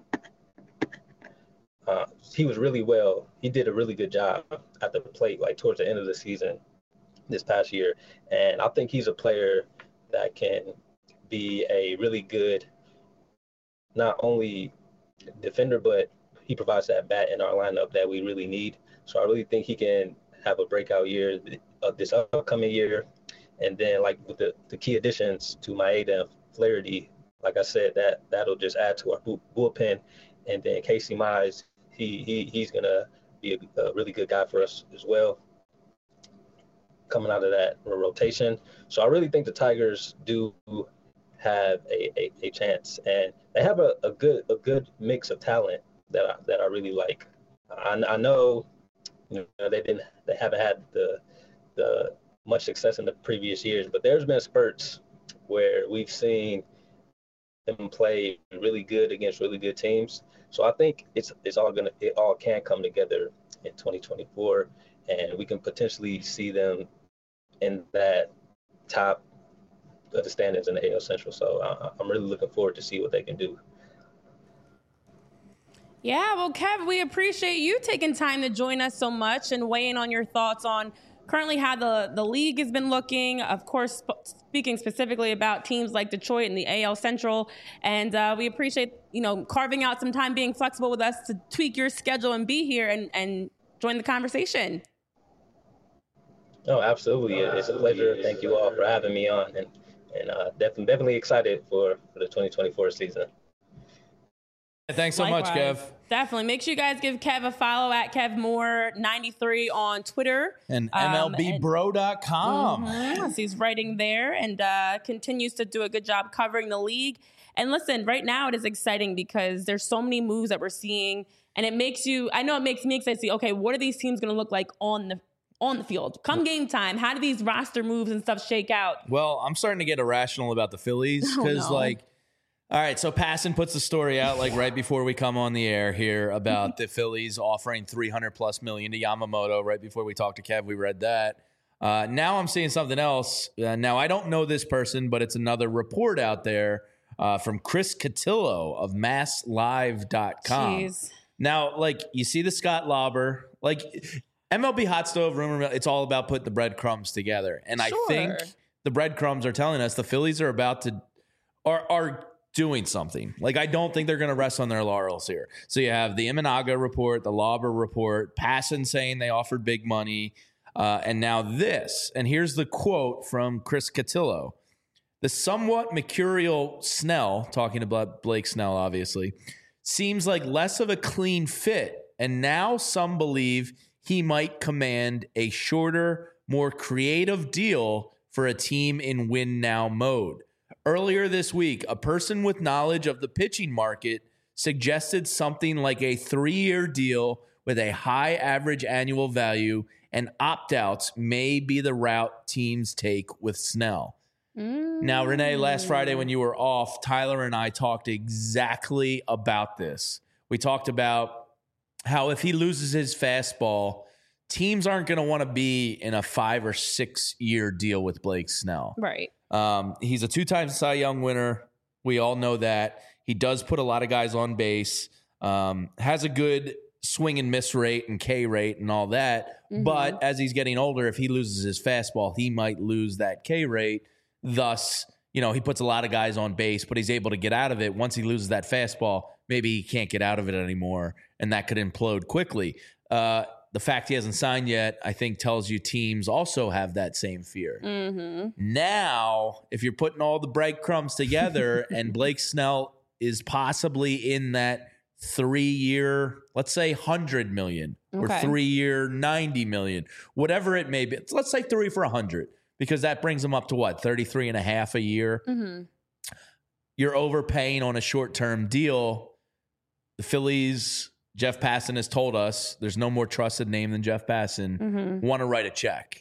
well. He did a really good job at the plate, like towards the end of the season this past year. And I think he's a player that can be a really good, not only defender, but he provides that bat in our lineup that we really need. So I really think he can have a breakout year this upcoming year. And then, like with the key additions to Maeda and Flaherty, like I said, that'll just add to our bullpen. And then Casey Mize, he's gonna be a really good guy for us as well, coming out of that rotation. So I really think the Tigers do have a chance, and they have a good mix of talent that I really like. I know they haven't had the much success in the previous years, but there's been spurts where we've seen them play really good against really good teams. So I think it all can come together in 2024, and we can potentially see them in that top of the standings in the AL Central. So I'm really looking forward to see what they can do. Yeah, well, Kev, we appreciate you taking time to join us so much and weigh in on your thoughts on currently how the league has been looking. Of course, speaking specifically about teams like Detroit and the AL Central. And we appreciate, carving out some time, being flexible with us to tweak your schedule and be here and join the conversation. No, absolutely. It's a pleasure. Thank you all for having me on, and definitely excited for the 2024 season. Thanks so much, Kev. Definitely. Make sure you guys give Kev a follow at KevMoore93 on Twitter. And MLBBro.com. So he's writing there and continues to do a good job covering the league. And listen, right now it is exciting because there's so many moves that we're seeing. And it makes me excited to see, okay, what are these teams going to look like on the field? Come game time, how do these roster moves and stuff shake out? Well, I'm starting to get irrational about the Phillies because, all right, so Passan puts the story out right before we come on the air here about the Phillies offering $300+ million to Yamamoto. Right before we talked to Kev, we read that. Now I'm seeing something else. Now I don't know this person, but it's another report out there from Chris Cotillo of MassLive.com. Jeez. Now, like, you see the Scott Lauber, like MLB Hot Stove rumor mill, it's all about putting the breadcrumbs together. And I think the breadcrumbs are telling us the Phillies are about to are doing something. Like, I don't think they're going to rest on their laurels here. So you have the Imanaga report, the Lauber report, Passan saying they offered big money, and now this. And here's the quote from Chris Cotillo. The somewhat mercurial Snell, talking about Blake Snell, obviously, seems like less of a clean fit, and now some believe he might command a shorter, more creative deal for a team in win-now mode. Earlier this week, a person with knowledge of the pitching market suggested something like a 3-year deal with a high average annual value, and opt-outs may be the route teams take with Snell. Now, Renee, last Friday when you were off, Tyler and I talked exactly about this. We talked about how if he loses his fastball, teams aren't going to want to be in a 5 or 6 year deal with Blake Snell. Right. He's a 2-time Cy Young winner. We all know that. He does put a lot of guys on base, has a good swing and miss rate and K rate and all that. Mm-hmm. But as he's getting older, if he loses his fastball, he might lose that K rate. Thus, you know, he puts a lot of guys on base, but he's able to get out of it. Once he loses that fastball, maybe he can't get out of it anymore, and that could implode quickly. The fact he hasn't signed yet, I think, tells you teams also have that same fear. Mm-hmm. Now, if you're putting all the breadcrumbs together and Blake Snell is possibly in that 3-year, let's say $100 million, or 3-year $90 million, whatever it may be. Let's say 3 for $100. Because that brings them up to what, 33 and a half a year? Mm-hmm. You're overpaying on a short-term deal. The Phillies, Jeff Passan has told us, there's no more trusted name than Jeff Passan, want to write a check.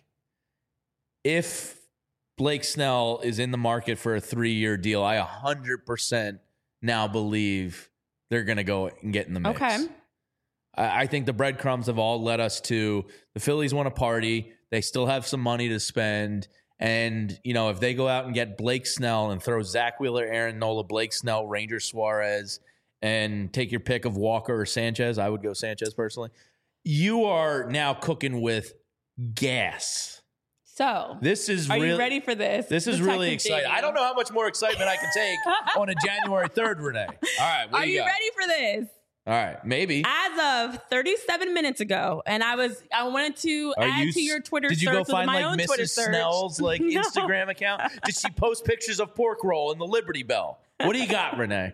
If Blake Snell is in the market for a 3-year deal, I 100% now believe they're going to go and get in the mix. Okay. I think the breadcrumbs have all led us to the Phillies want to party. They still have some money to spend. And, you know, if they go out and get Blake Snell and throw Zach Wheeler, Aaron Nola, Blake Snell, Ranger Suarez, and take your pick of Walker or Sanchez, I would go Sanchez personally, you are now cooking with gas. So, are you ready for this? This is really exciting. I don't know how much more excitement I can take on a January 3rd, Renee. All right, what are you ready for this? All right, maybe. As of 37 minutes ago, and I wanted to add to your Twitter search. Did you go find my like own Mrs. Twitter search. Snell's like No. Instagram account? Did she post pictures of pork roll and the Liberty Bell? What do you got, Renee?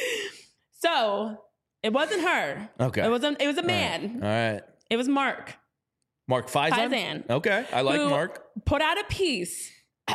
So it wasn't her. Okay. It was a man. All right. It was Mark. Mark Faison? Okay. I like Mark. Put out a piece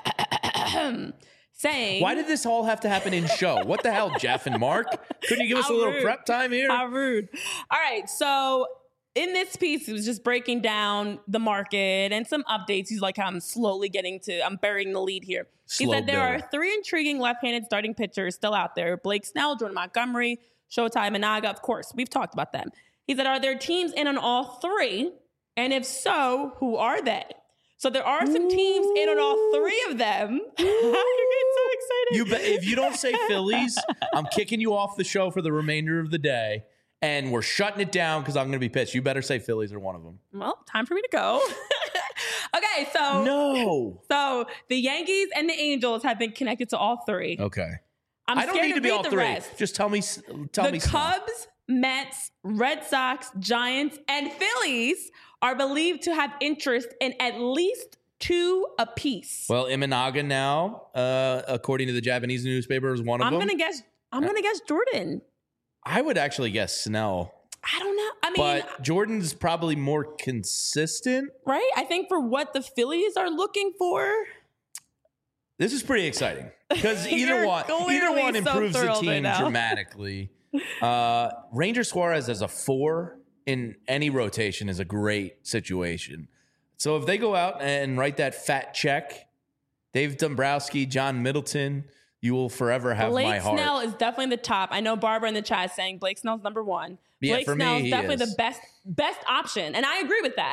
saying, why did this all have to happen in show? What the hell, Jeff and Mark? Couldn't you give us a little prep time here? How rude. All right. So in this piece, it was just breaking down the market and some updates. He's like, I'm burying the lead here. He said there are 3 intriguing left-handed starting pitchers still out there. Blake Snell, Jordan Montgomery, Showtime Imanaga. Of course, we've talked about them. He said, are there teams in on all 3? And if so, who are they? So there are some teams in on all 3 of them. You're getting so excited. If you don't say Phillies, I'm kicking you off the show for the remainder of the day, and we're shutting it down because I'm going to be pissed. You better say Phillies are one of them. Well, time for me to go. Okay, so no. So the Yankees and the Angels have been connected to all 3. Okay. I don't need to be all 3. Rest. Just tell me. The Cubs, Mets, Red Sox, Giants, and Phillies are believed to have interest in at least 2 apiece. Well, Imanaga now, according to the Japanese newspaper, is one of them. I'm gonna guess Jordan. I would actually guess Snell. I don't know. I mean, but Jordan's probably more consistent, right? I think for what the Phillies are looking for. This is pretty exciting because either one improves the team dramatically. Ranger Suarez as a 4 in any rotation is a great situation. So if they go out and write that fat check, Dave Dombrowski, John Middleton, you will forever have my heart. Blake Snell is definitely the top. I know Barbara in the chat is saying Blake Snell's number 1. Yeah, Blake for Snell's me, definitely the best option. And I agree with that.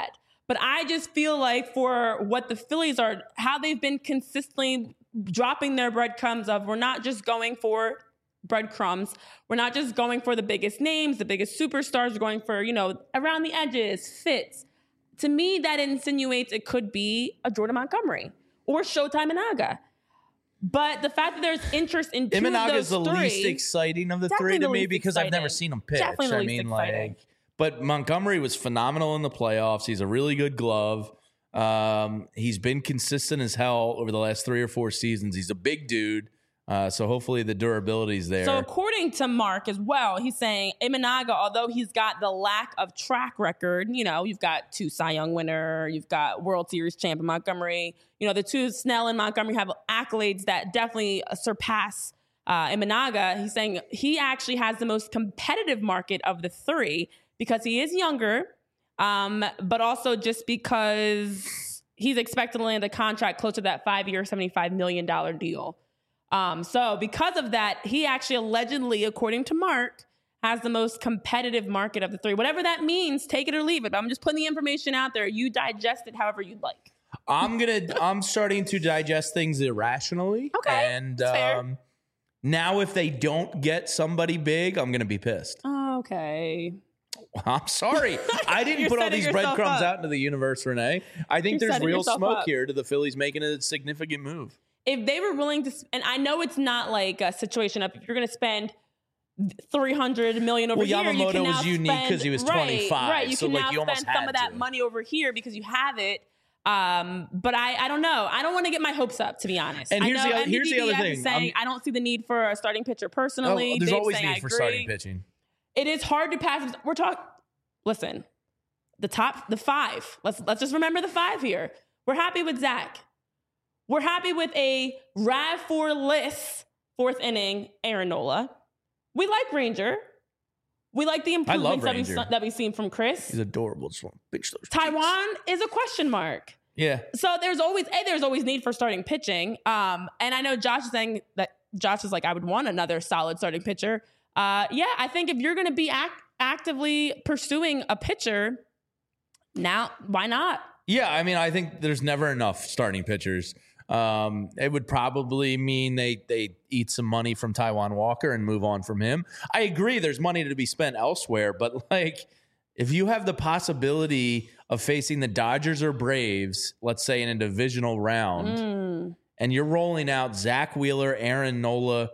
But I just feel like for what the Phillies are, how they've been consistently dropping their breadcrumbs of, we're not just going for breadcrumbs. We're not just going for the biggest names, the biggest superstars. We're going for, around the edges, fits. To me, that insinuates it could be a Jordan Montgomery or Showtime Imanaga. But the fact that there's interest in two Imanaga of those is the three, least exciting of the three to me because I've never seen him pitch. Definitely the least exciting. But Montgomery was phenomenal in the playoffs. He's a really good glove. He's been consistent as hell over the last 3 or 4 seasons. He's a big dude. So hopefully the durability's there. So according to Mark as well, he's saying Imanaga, although he's got the lack of track record, you've got 2 Cy Young winner, you've got World Series champ in Montgomery. The 2 Snell and Montgomery have accolades that definitely surpass Imanaga. He's saying he actually has the most competitive market of the 3 because he is younger, but also just because he's expected to land a contract close to that 5-year, $75 million deal. So because of that, he actually allegedly, according to Mark, has the most competitive market of the 3. Whatever that means, take it or leave it. But I'm just putting the information out there. You digest it however you'd like. I'm starting to digest things irrationally. Okay. And fair. now if they don't get somebody big, I'm gonna be pissed. Okay. I'm sorry. I didn't put all these breadcrumbs out into the universe, Renee. I think there's real smoke here to the Phillies making a significant move. If they were willing to, and I know it's not like a situation of if you're going to spend $300 million over here, Yamamoto you can now was unique because he was 25. Right, you so can like now you almost spend some of that money over here because you have it. But I don't know. I don't want to get my hopes up, to be honest. And here's the other thing. Saying, I don't see the need for a starting pitcher personally. There's Dave's always saying, need for starting pitching. It is hard to pass. We're talking. Listen, the 5. Let's just remember the 5 here. We're happy with Zach. We're happy with a RAV4-less 4th inning Aaron Nola. We like Ranger. We like the improvements that we've seen from Chris. He's adorable. Just big Taiwan is a question mark. Yeah. So there's always need for starting pitching. And I know Josh is saying that Josh is like, I would want another solid starting pitcher. I think if you're going to be actively pursuing a pitcher, now why not? Yeah, I mean, I think there's never enough starting pitchers. It would probably mean they eat some money from Taijuan Walker and move on from him. I agree there's money to be spent elsewhere, but like if you have the possibility of facing the Dodgers or Braves, let's say in a divisional round, and you're rolling out Zach Wheeler, Aaron Nola,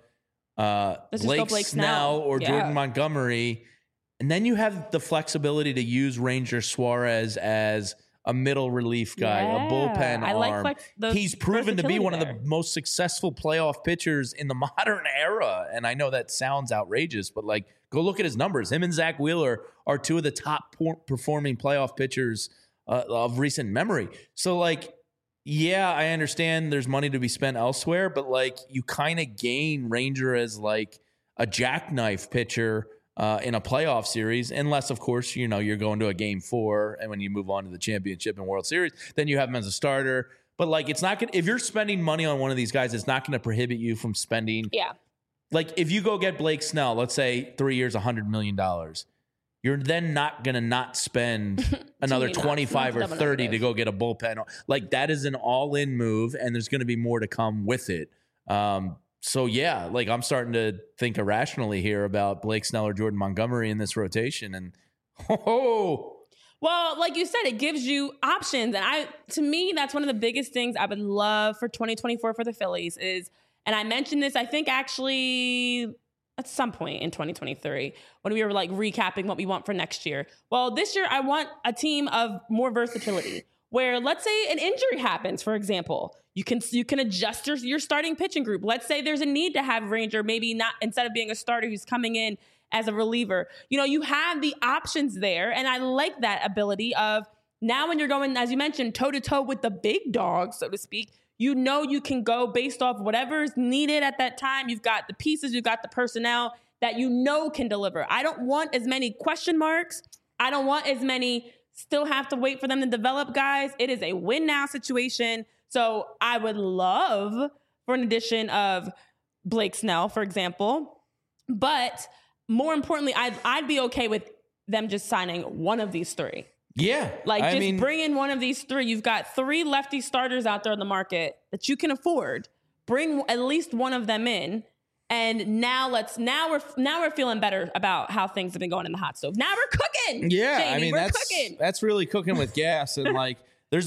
Blake Snell, or Jordan Montgomery, and then you have the flexibility to use Ranger Suarez as a middle relief guy, a bullpen arm. He's proven to be one of the most successful playoff pitchers in the modern era. And I know that sounds outrageous, but like, go look at his numbers. Him and Zach Wheeler are 2 of the top performing playoff pitchers of recent memory. So like, yeah, I understand there's money to be spent elsewhere, but like you kind of gain Ranger as like a jackknife pitcher in a playoff series, unless, of course, you're going to a game 4, and when you move on to the championship and World Series, then you have him as a starter. But like, it's not going to, if you're spending money on one of these guys, it's not going to prohibit you from spending. Yeah. Like, if you go get Blake Snell, let's say 3 years, $100 million, you're then not going to not spend another 25 or 30 to go get a bullpen. Like, that is an all-in move, and there's going to be more to come with it. So, yeah, like I'm starting to think irrationally here about Blake Snell or Jordan Montgomery in this rotation. And, well, like you said, it gives you options. And to me, that's one of the biggest things I would love for 2024 for the Phillies is, and I mentioned this, I think actually at some point in 2023 when we were like recapping what we want for next year. Well, this year I want a team of more versatility where let's say an injury happens, for example. You can adjust your starting pitching group. Let's say there's a need to have Ranger, maybe not instead of being a starter who's coming in as a reliever. You have the options there. And I like that ability of now when you're going, as you mentioned, toe-to-toe with the big dogs, so to speak, you can go based off whatever's needed at that time. You've got the pieces, you've got the personnel that can deliver. I don't want as many question marks. I don't want as many still have to wait for them to develop guys. It is a win-now situation. So I would love for an addition of Blake Snell, for example. But more importantly, I'd be okay with them just signing one of these 3. Yeah. Like, bring in one of these three. You've got 3 lefty starters out there in the market that you can afford. Bring at least one of them in. And now we're feeling better about how things have been going in the hot stove. Now we're cooking. Yeah, Jamie, I mean, we're cooking. That's really cooking with gas. And like, there's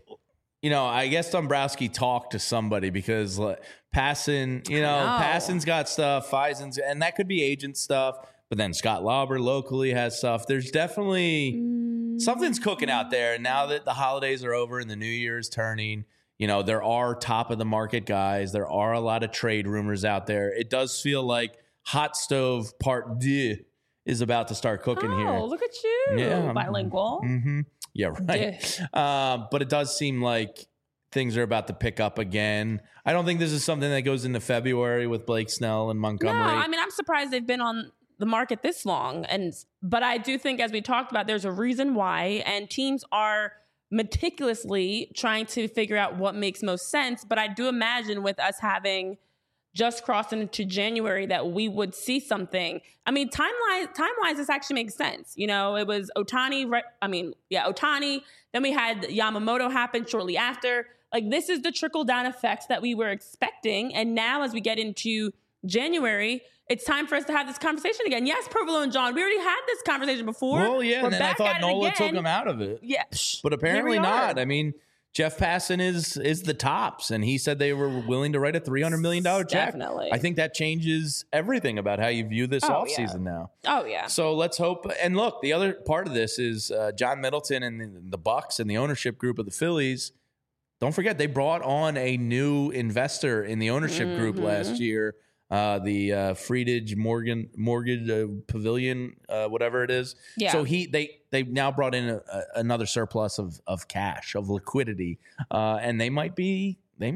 I guess Dombrowski talked to somebody because Passan, Passan's got stuff, Faisen's, and that could be agent stuff. But then Scott Lauber locally has stuff. There's definitely something's cooking out there. And now that the holidays are over and the new year is turning, there are top of the market guys. There are a lot of trade rumors out there. It does feel like Hot Stove Part 2 is about to start cooking here. Oh, look at you. Yeah. Bilingual. Mm-hmm. Yeah, right. But it does seem like things are about to pick up again. I don't think this is something that goes into February with Blake Snell and Montgomery. No, I mean, I'm surprised they've been on the market this long. But I do think, as we talked about, there's a reason why, and teams are meticulously trying to figure out what makes most sense. But I do imagine with us having just crossed into January that we would see something. I mean, time-wise, this actually makes sense. It was Ohtani. Ohtani. Then we had Yamamoto happen shortly after. Like, this is the trickle-down effects that we were expecting. And now as we get into January, it's time for us to have this conversation again. Yes, Provolone and John, we already had this conversation before. Well, yeah, and then I thought Nola took him out of it. Yeah. But apparently not. I mean, Jeff Passan is the tops, and he said they were willing to write a $300 million check. Definitely. I think that changes everything about how you view this offseason now. Oh, yeah. So let's hope. And look, the other part of this is John Middleton and the Bucks and the ownership group of the Phillies. Don't forget, they brought on a new investor in the ownership group last year. The Friedage Mortgage Pavilion, whatever it is. Yeah. So they now brought in another surplus of cash, of liquidity, and they might be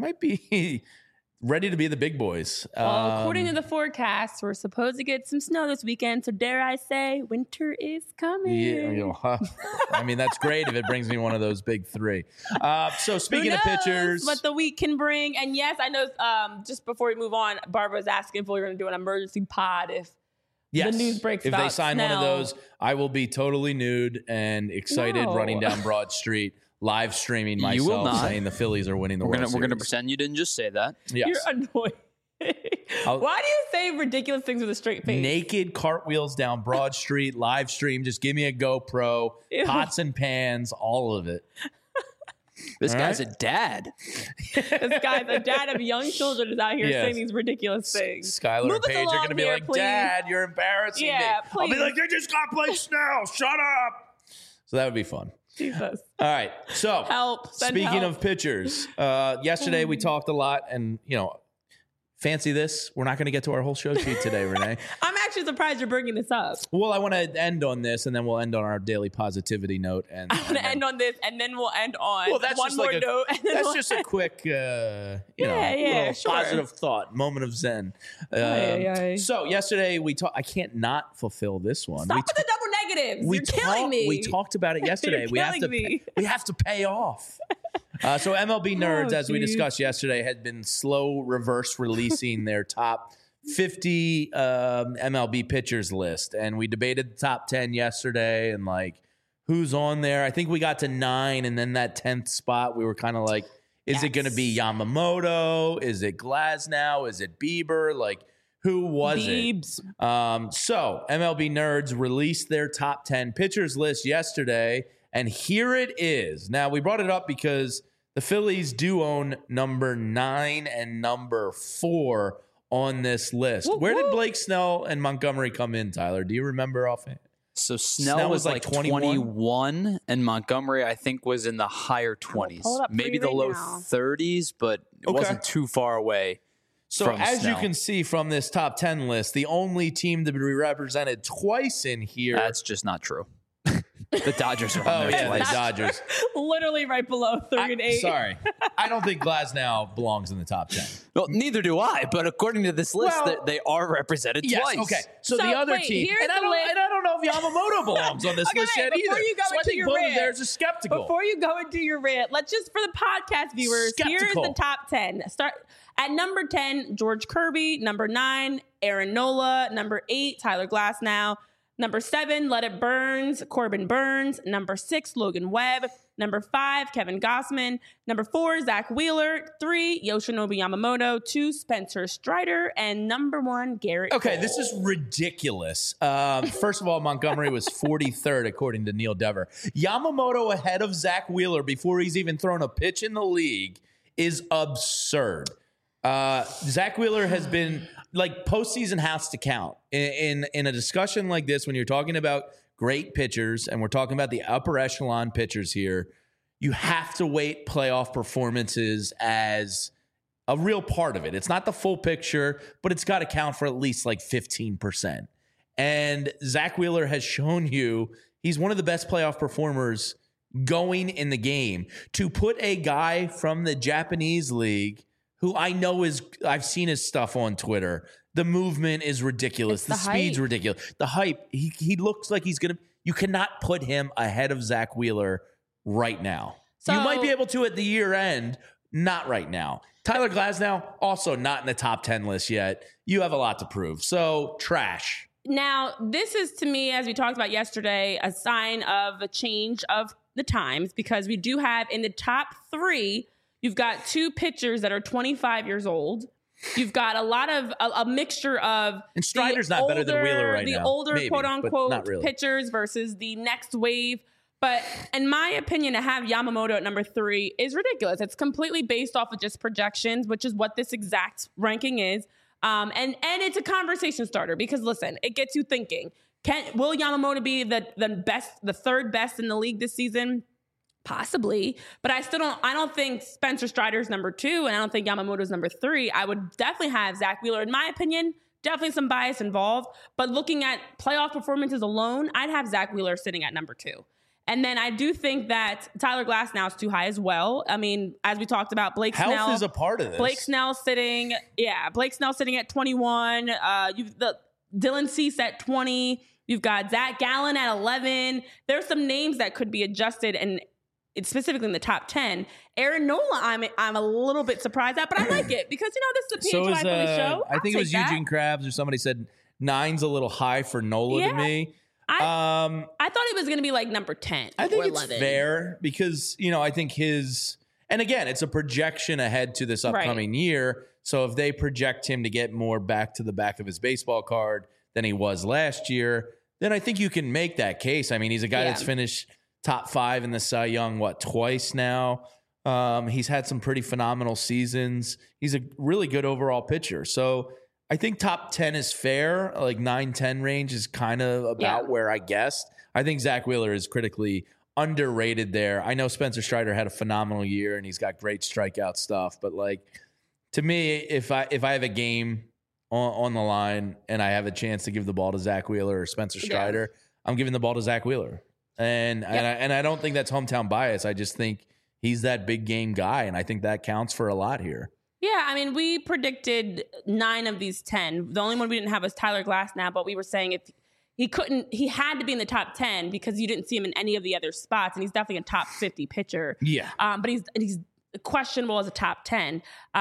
ready to be the big boys. Well, according to the forecast, we're supposed to get some snow this weekend. So dare I say, winter is coming. Yeah, I mean, that's great if it brings me one of those big 3. So speaking of pitchers, what the week can bring. And yes, I know. Just before we move on, Barbara was asking if we were going to do an emergency pod if the news breaks. If about they sign Snell. one of those, I will be totally nude and excited running down Broad Street. Live streaming myself saying the Phillies are winning the World Series. We're going to pretend you didn't just say that. Yes. You're annoying. Why do you say ridiculous things with a straight face? Naked cartwheels down Broad Street, live stream. Just give me a GoPro, pots and pans, all of it. This guy's a dad. This guy's a dad of young children is out here saying these ridiculous things. Skylar and Paige are going to be like, please. Dad, you're embarrassing me. Please. I'll be like, they just got Blake Snell. Shut up. So that would be fun. Jesus. All right. So speaking of pitchers, yesterday we talked a lot and, fancy this. We're not going to get to our whole show sheet today, Renee. I'm actually surprised you're bringing this up. Well, I want to end on this and then we'll end on our daily positivity note. And I want to end on this and then we'll end on one more like note. That's just a quick, positive thought, moment of zen. So yesterday I can't not fulfill this one. Stop with the double negatives. You're killing me. We talked about it yesterday. We have to pay off. So MLB Nerds, as we discussed yesterday, had been slow reverse releasing their top 50 MLB pitchers list. And we debated the top 10 yesterday and who's on there. I think we got to 9, and then that 10th spot, we were kind of like, is it going to be Yamamoto? Is it Glasnow? Is it Bieber? Who was it? So MLB Nerds released their top 10 pitchers list yesterday, and here it is. Now, we brought it up because the Phillies do own number 9 and number 4 on this list. Where did Blake Snell and Montgomery come in, Tyler? Do you remember offhand? So Snell was like 21, and Montgomery, I think, was in the higher 20s. Maybe the low 30s, but it wasn't too far away. So as you can see from this top 10 list, the only team to be represented twice in here. That's just not true. The Dodgers are on there twice. The Dodgers. Literally right below 3 and 8. Sorry. I don't think Glasnow belongs in the top 10. Well, neither do I, but according to this list, they are represented twice. Okay. So the other team, and I don't know if Yamamoto belongs on this list yet either. So I think both of theirs are skeptical. Before you go into your rant, let's just, for the podcast viewers, here's the top 10. Start at number 10, George Kirby. Number 9, Aaron Nola. Number 8, Tyler Glasnow. Number 7, Let It Burns, Corbin Burns. Number 6, Logan Webb. Number 5, Kevin Gossman. Number 4, Zach Wheeler. 3, Yoshinobu Yamamoto. 2, Spencer Strider. And number 1, Garrett Okay, Cole. this is ridiculous. First of all, Montgomery was 43rd, according to Neil Dever. Yamamoto ahead of Zach Wheeler before he's even thrown a pitch in the league is absurd. Zach Wheeler has been, like, postseason has to count. In a discussion like this, when you're talking about great pitchers, and we're talking about the upper echelon pitchers here, you have to weight playoff performances as a real part of it. It's not the full picture, but it's got to count for at least like 15%. And Zach Wheeler has shown you he's one of the best playoff performers going in the game. To put a guy from the Japanese league, who I know I've seen his stuff on Twitter. The movement is ridiculous. The speed's ridiculous. The hype, he looks like he's going to, you cannot put him ahead of Zach Wheeler right now. So, you might be able to at the year end, not right now. Tyler Glasnow, also not in the top 10 list yet. You have a lot to prove. So, trash. Now, this is, to me, as we talked about yesterday, a sign of a change of the times, because we do have in the top 3, you've got 2 pitchers that are 25 years old. You've got a lot of a mixture of, and Strider's not better than Wheeler right now. The older, maybe, quote unquote, really. pitchers versus the next wave. But in my opinion, to have Yamamoto at number 3 is ridiculous. It's completely based off of just projections, which is what this exact ranking is. And it's a conversation starter, because listen, it gets you thinking. Will Yamamoto be the third best in the league this season? Possibly, but I don't think Spencer Strider's number 2, and I don't think Yamamoto's number 3. I would definitely have Zach Wheeler. In my opinion, definitely some bias involved, but looking at playoff performances alone, I'd have Zach Wheeler sitting at number 2. And then I do think that Tyler Glasnow is too high as well. I mean, as we talked about, Blake Snell. Health is a part of this. Blake Snell sitting at 21. You've the Dylan Cease at 20. You've got Zach Gallen at 11. There's some names that could be adjusted, and it's specifically in the top 10. Aaron Nola, I'm a little bit surprised at, but I like it because, this is a PHY Philly show. I think it was Eugene Krabs or somebody said 9's a little high for Nola to me. I thought it was going to be like number 10 I think or it's 11. fair because, I think and again, it's a projection ahead to this upcoming year. So if they project him to get more back to the back of his baseball card than he was last year, then I think you can make that case. I mean, he's a guy that's finished top 5 in the Cy Young, twice now. He's had some pretty phenomenal seasons. He's a really good overall pitcher. So I think top 10 is fair. Like 9-10 range is kind of about where I guessed. I think Zach Wheeler is critically underrated there. I know Spencer Strider had a phenomenal year and he's got great strikeout stuff. But to me, if I have a game on the line and I have a chance to give the ball to Zach Wheeler or Spencer Strider, I'm giving the ball to Zach Wheeler. And I don't think that's hometown bias. I just think he's that big game guy, and I think that counts for a lot here. Yeah, I mean, we predicted 9 of these 10. The only one we didn't have was Tyler Glasnow, but we were saying if he had to be in the top 10 because you didn't see him in any of the other spots, and he's definitely a top 50 pitcher. Yeah. But he's questionable as a top 10.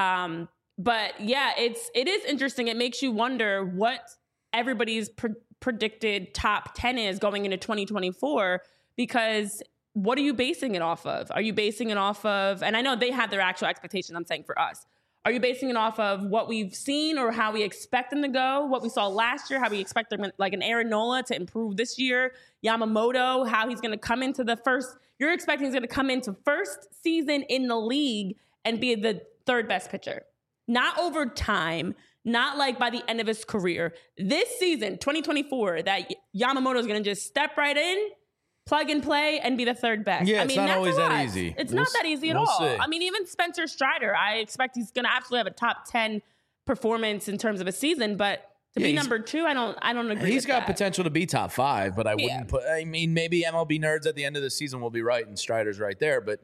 But yeah, it is interesting. It makes you wonder what everybody's predicted top 10 is going into 2024, because what are you basing it off of? Are you basing it off of, and I know they have their actual expectations, I'm saying for us, are you basing it off of what we've seen or how we expect them to go, what we saw last year, how we expect them, like an Aaron Nola, to improve this year, Yamamoto, how he's going to come into you're expecting he's going to come into first season in the league and be the third best pitcher, not over time, not like by the end of his career. This season, 2024, that Yamamoto is going to just step right in, plug and play, and be the third best. Yeah, it's not always that easy. It's not that easy at all. See. I mean, even Spencer Strider, I expect he's going to absolutely have a top 10 performance in terms of a season, but to be number 2, I don't agree. He's with got that. potential to be top 5, but I wouldn't put. I mean, maybe MLB nerds at the end of the season will be right, and Strider's right there. But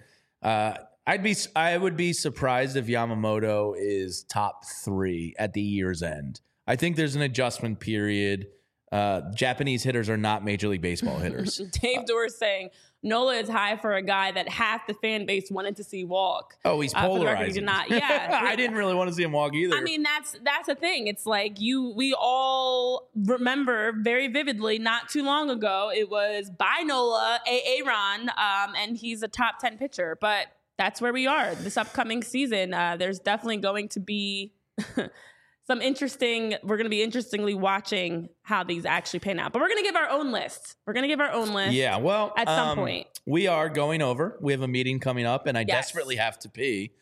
I would be surprised if Yamamoto is top 3 at the year's end. I think there's an adjustment period. Japanese hitters are not Major League Baseball hitters. Dave Dorr saying, Nola is high for a guy that half the fan base wanted to see walk. Oh, he's For the record, he polarizing. did not. Yeah. I didn't really want to see him walk either. I mean, that's the thing. It's like we all remember very vividly not too long ago, it was by Nola, Aaron, and he's a top 10 pitcher. But that's where we are this upcoming season. There's definitely going to be we're going to be interestingly watching how these actually pan out. But we're going to give our own list. Yeah, well, at some point. We are going over. We have a meeting coming up, and I desperately have to pee.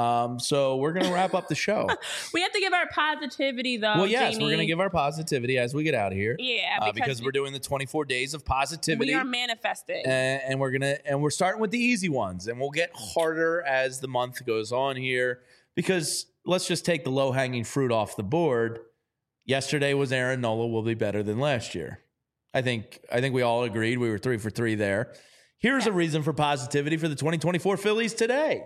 So we're going to wrap up the show. We have to give our positivity, though. Well, yes, Jamie. we're going to give our positivity as we get out of here. Yeah, because we're doing the 24 days of positivity. We are manifesting, and we're starting with the easy ones, and we'll get harder as the month goes on here. Because let's just take the low hanging fruit off the board. Yesterday was Aaron Nola will be better than last year. I think we all agreed. We were 3 for 3 there. Here's a reason for positivity for the 2024 Phillies today.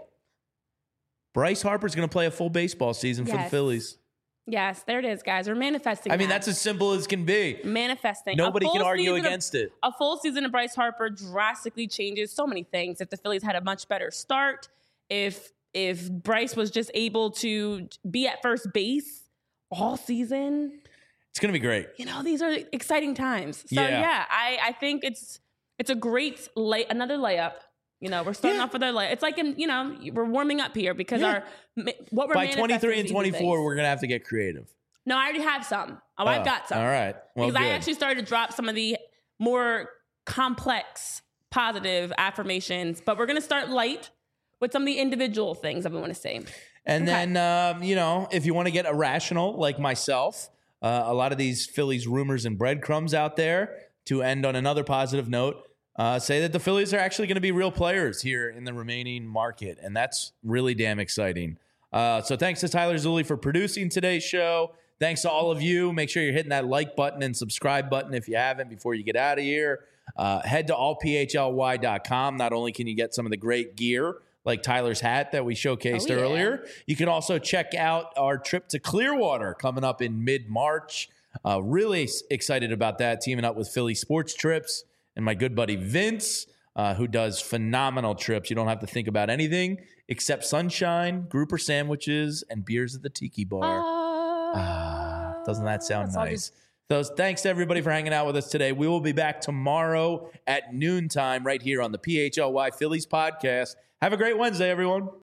Bryce Harper's going to play a full baseball season for the Phillies. Yes, there it is, guys. We're manifesting. I mean, that's as simple as can be. Manifesting. Nobody can argue against it. A full season of Bryce Harper drastically changes so many things. If the Phillies had a much better start, if Bryce was just able to be at first base all season, it's going to be great. These are exciting times. So I think it's a great another layup. We're starting off with our layup. It's like we're warming up here because what we're by 23 and 24, we're going to have to get creative. No, I already have some. I've got some. All right. Well, because good. I actually started to drop some of the more complex positive affirmations, but we're going to start light with some of the individual things that we want to say. And then, if you want to get irrational like myself, a lot of these Phillies rumors and breadcrumbs out there to end on another positive note, say that the Phillies are actually going to be real players here in the remaining market. And that's really damn exciting. So thanks to Tyler Zulli for producing today's show. Thanks to all of you. Make sure you're hitting that like button and subscribe button if you haven't before you get out of here. Head to allphly.com. Not only can you get some of the great gear, like Tyler's hat that we showcased earlier. You can also check out our trip to Clearwater coming up in mid-March. Really excited about that, teaming up with Philly Sports Trips and my good buddy Vince, who does phenomenal trips. You don't have to think about anything except sunshine, grouper sandwiches, and beers at the Tiki Bar. Doesn't that sound nice? So thanks to everybody for hanging out with us today. We will be back tomorrow at noontime right here on the PHLY Phillies podcast. Have a great Wednesday, everyone.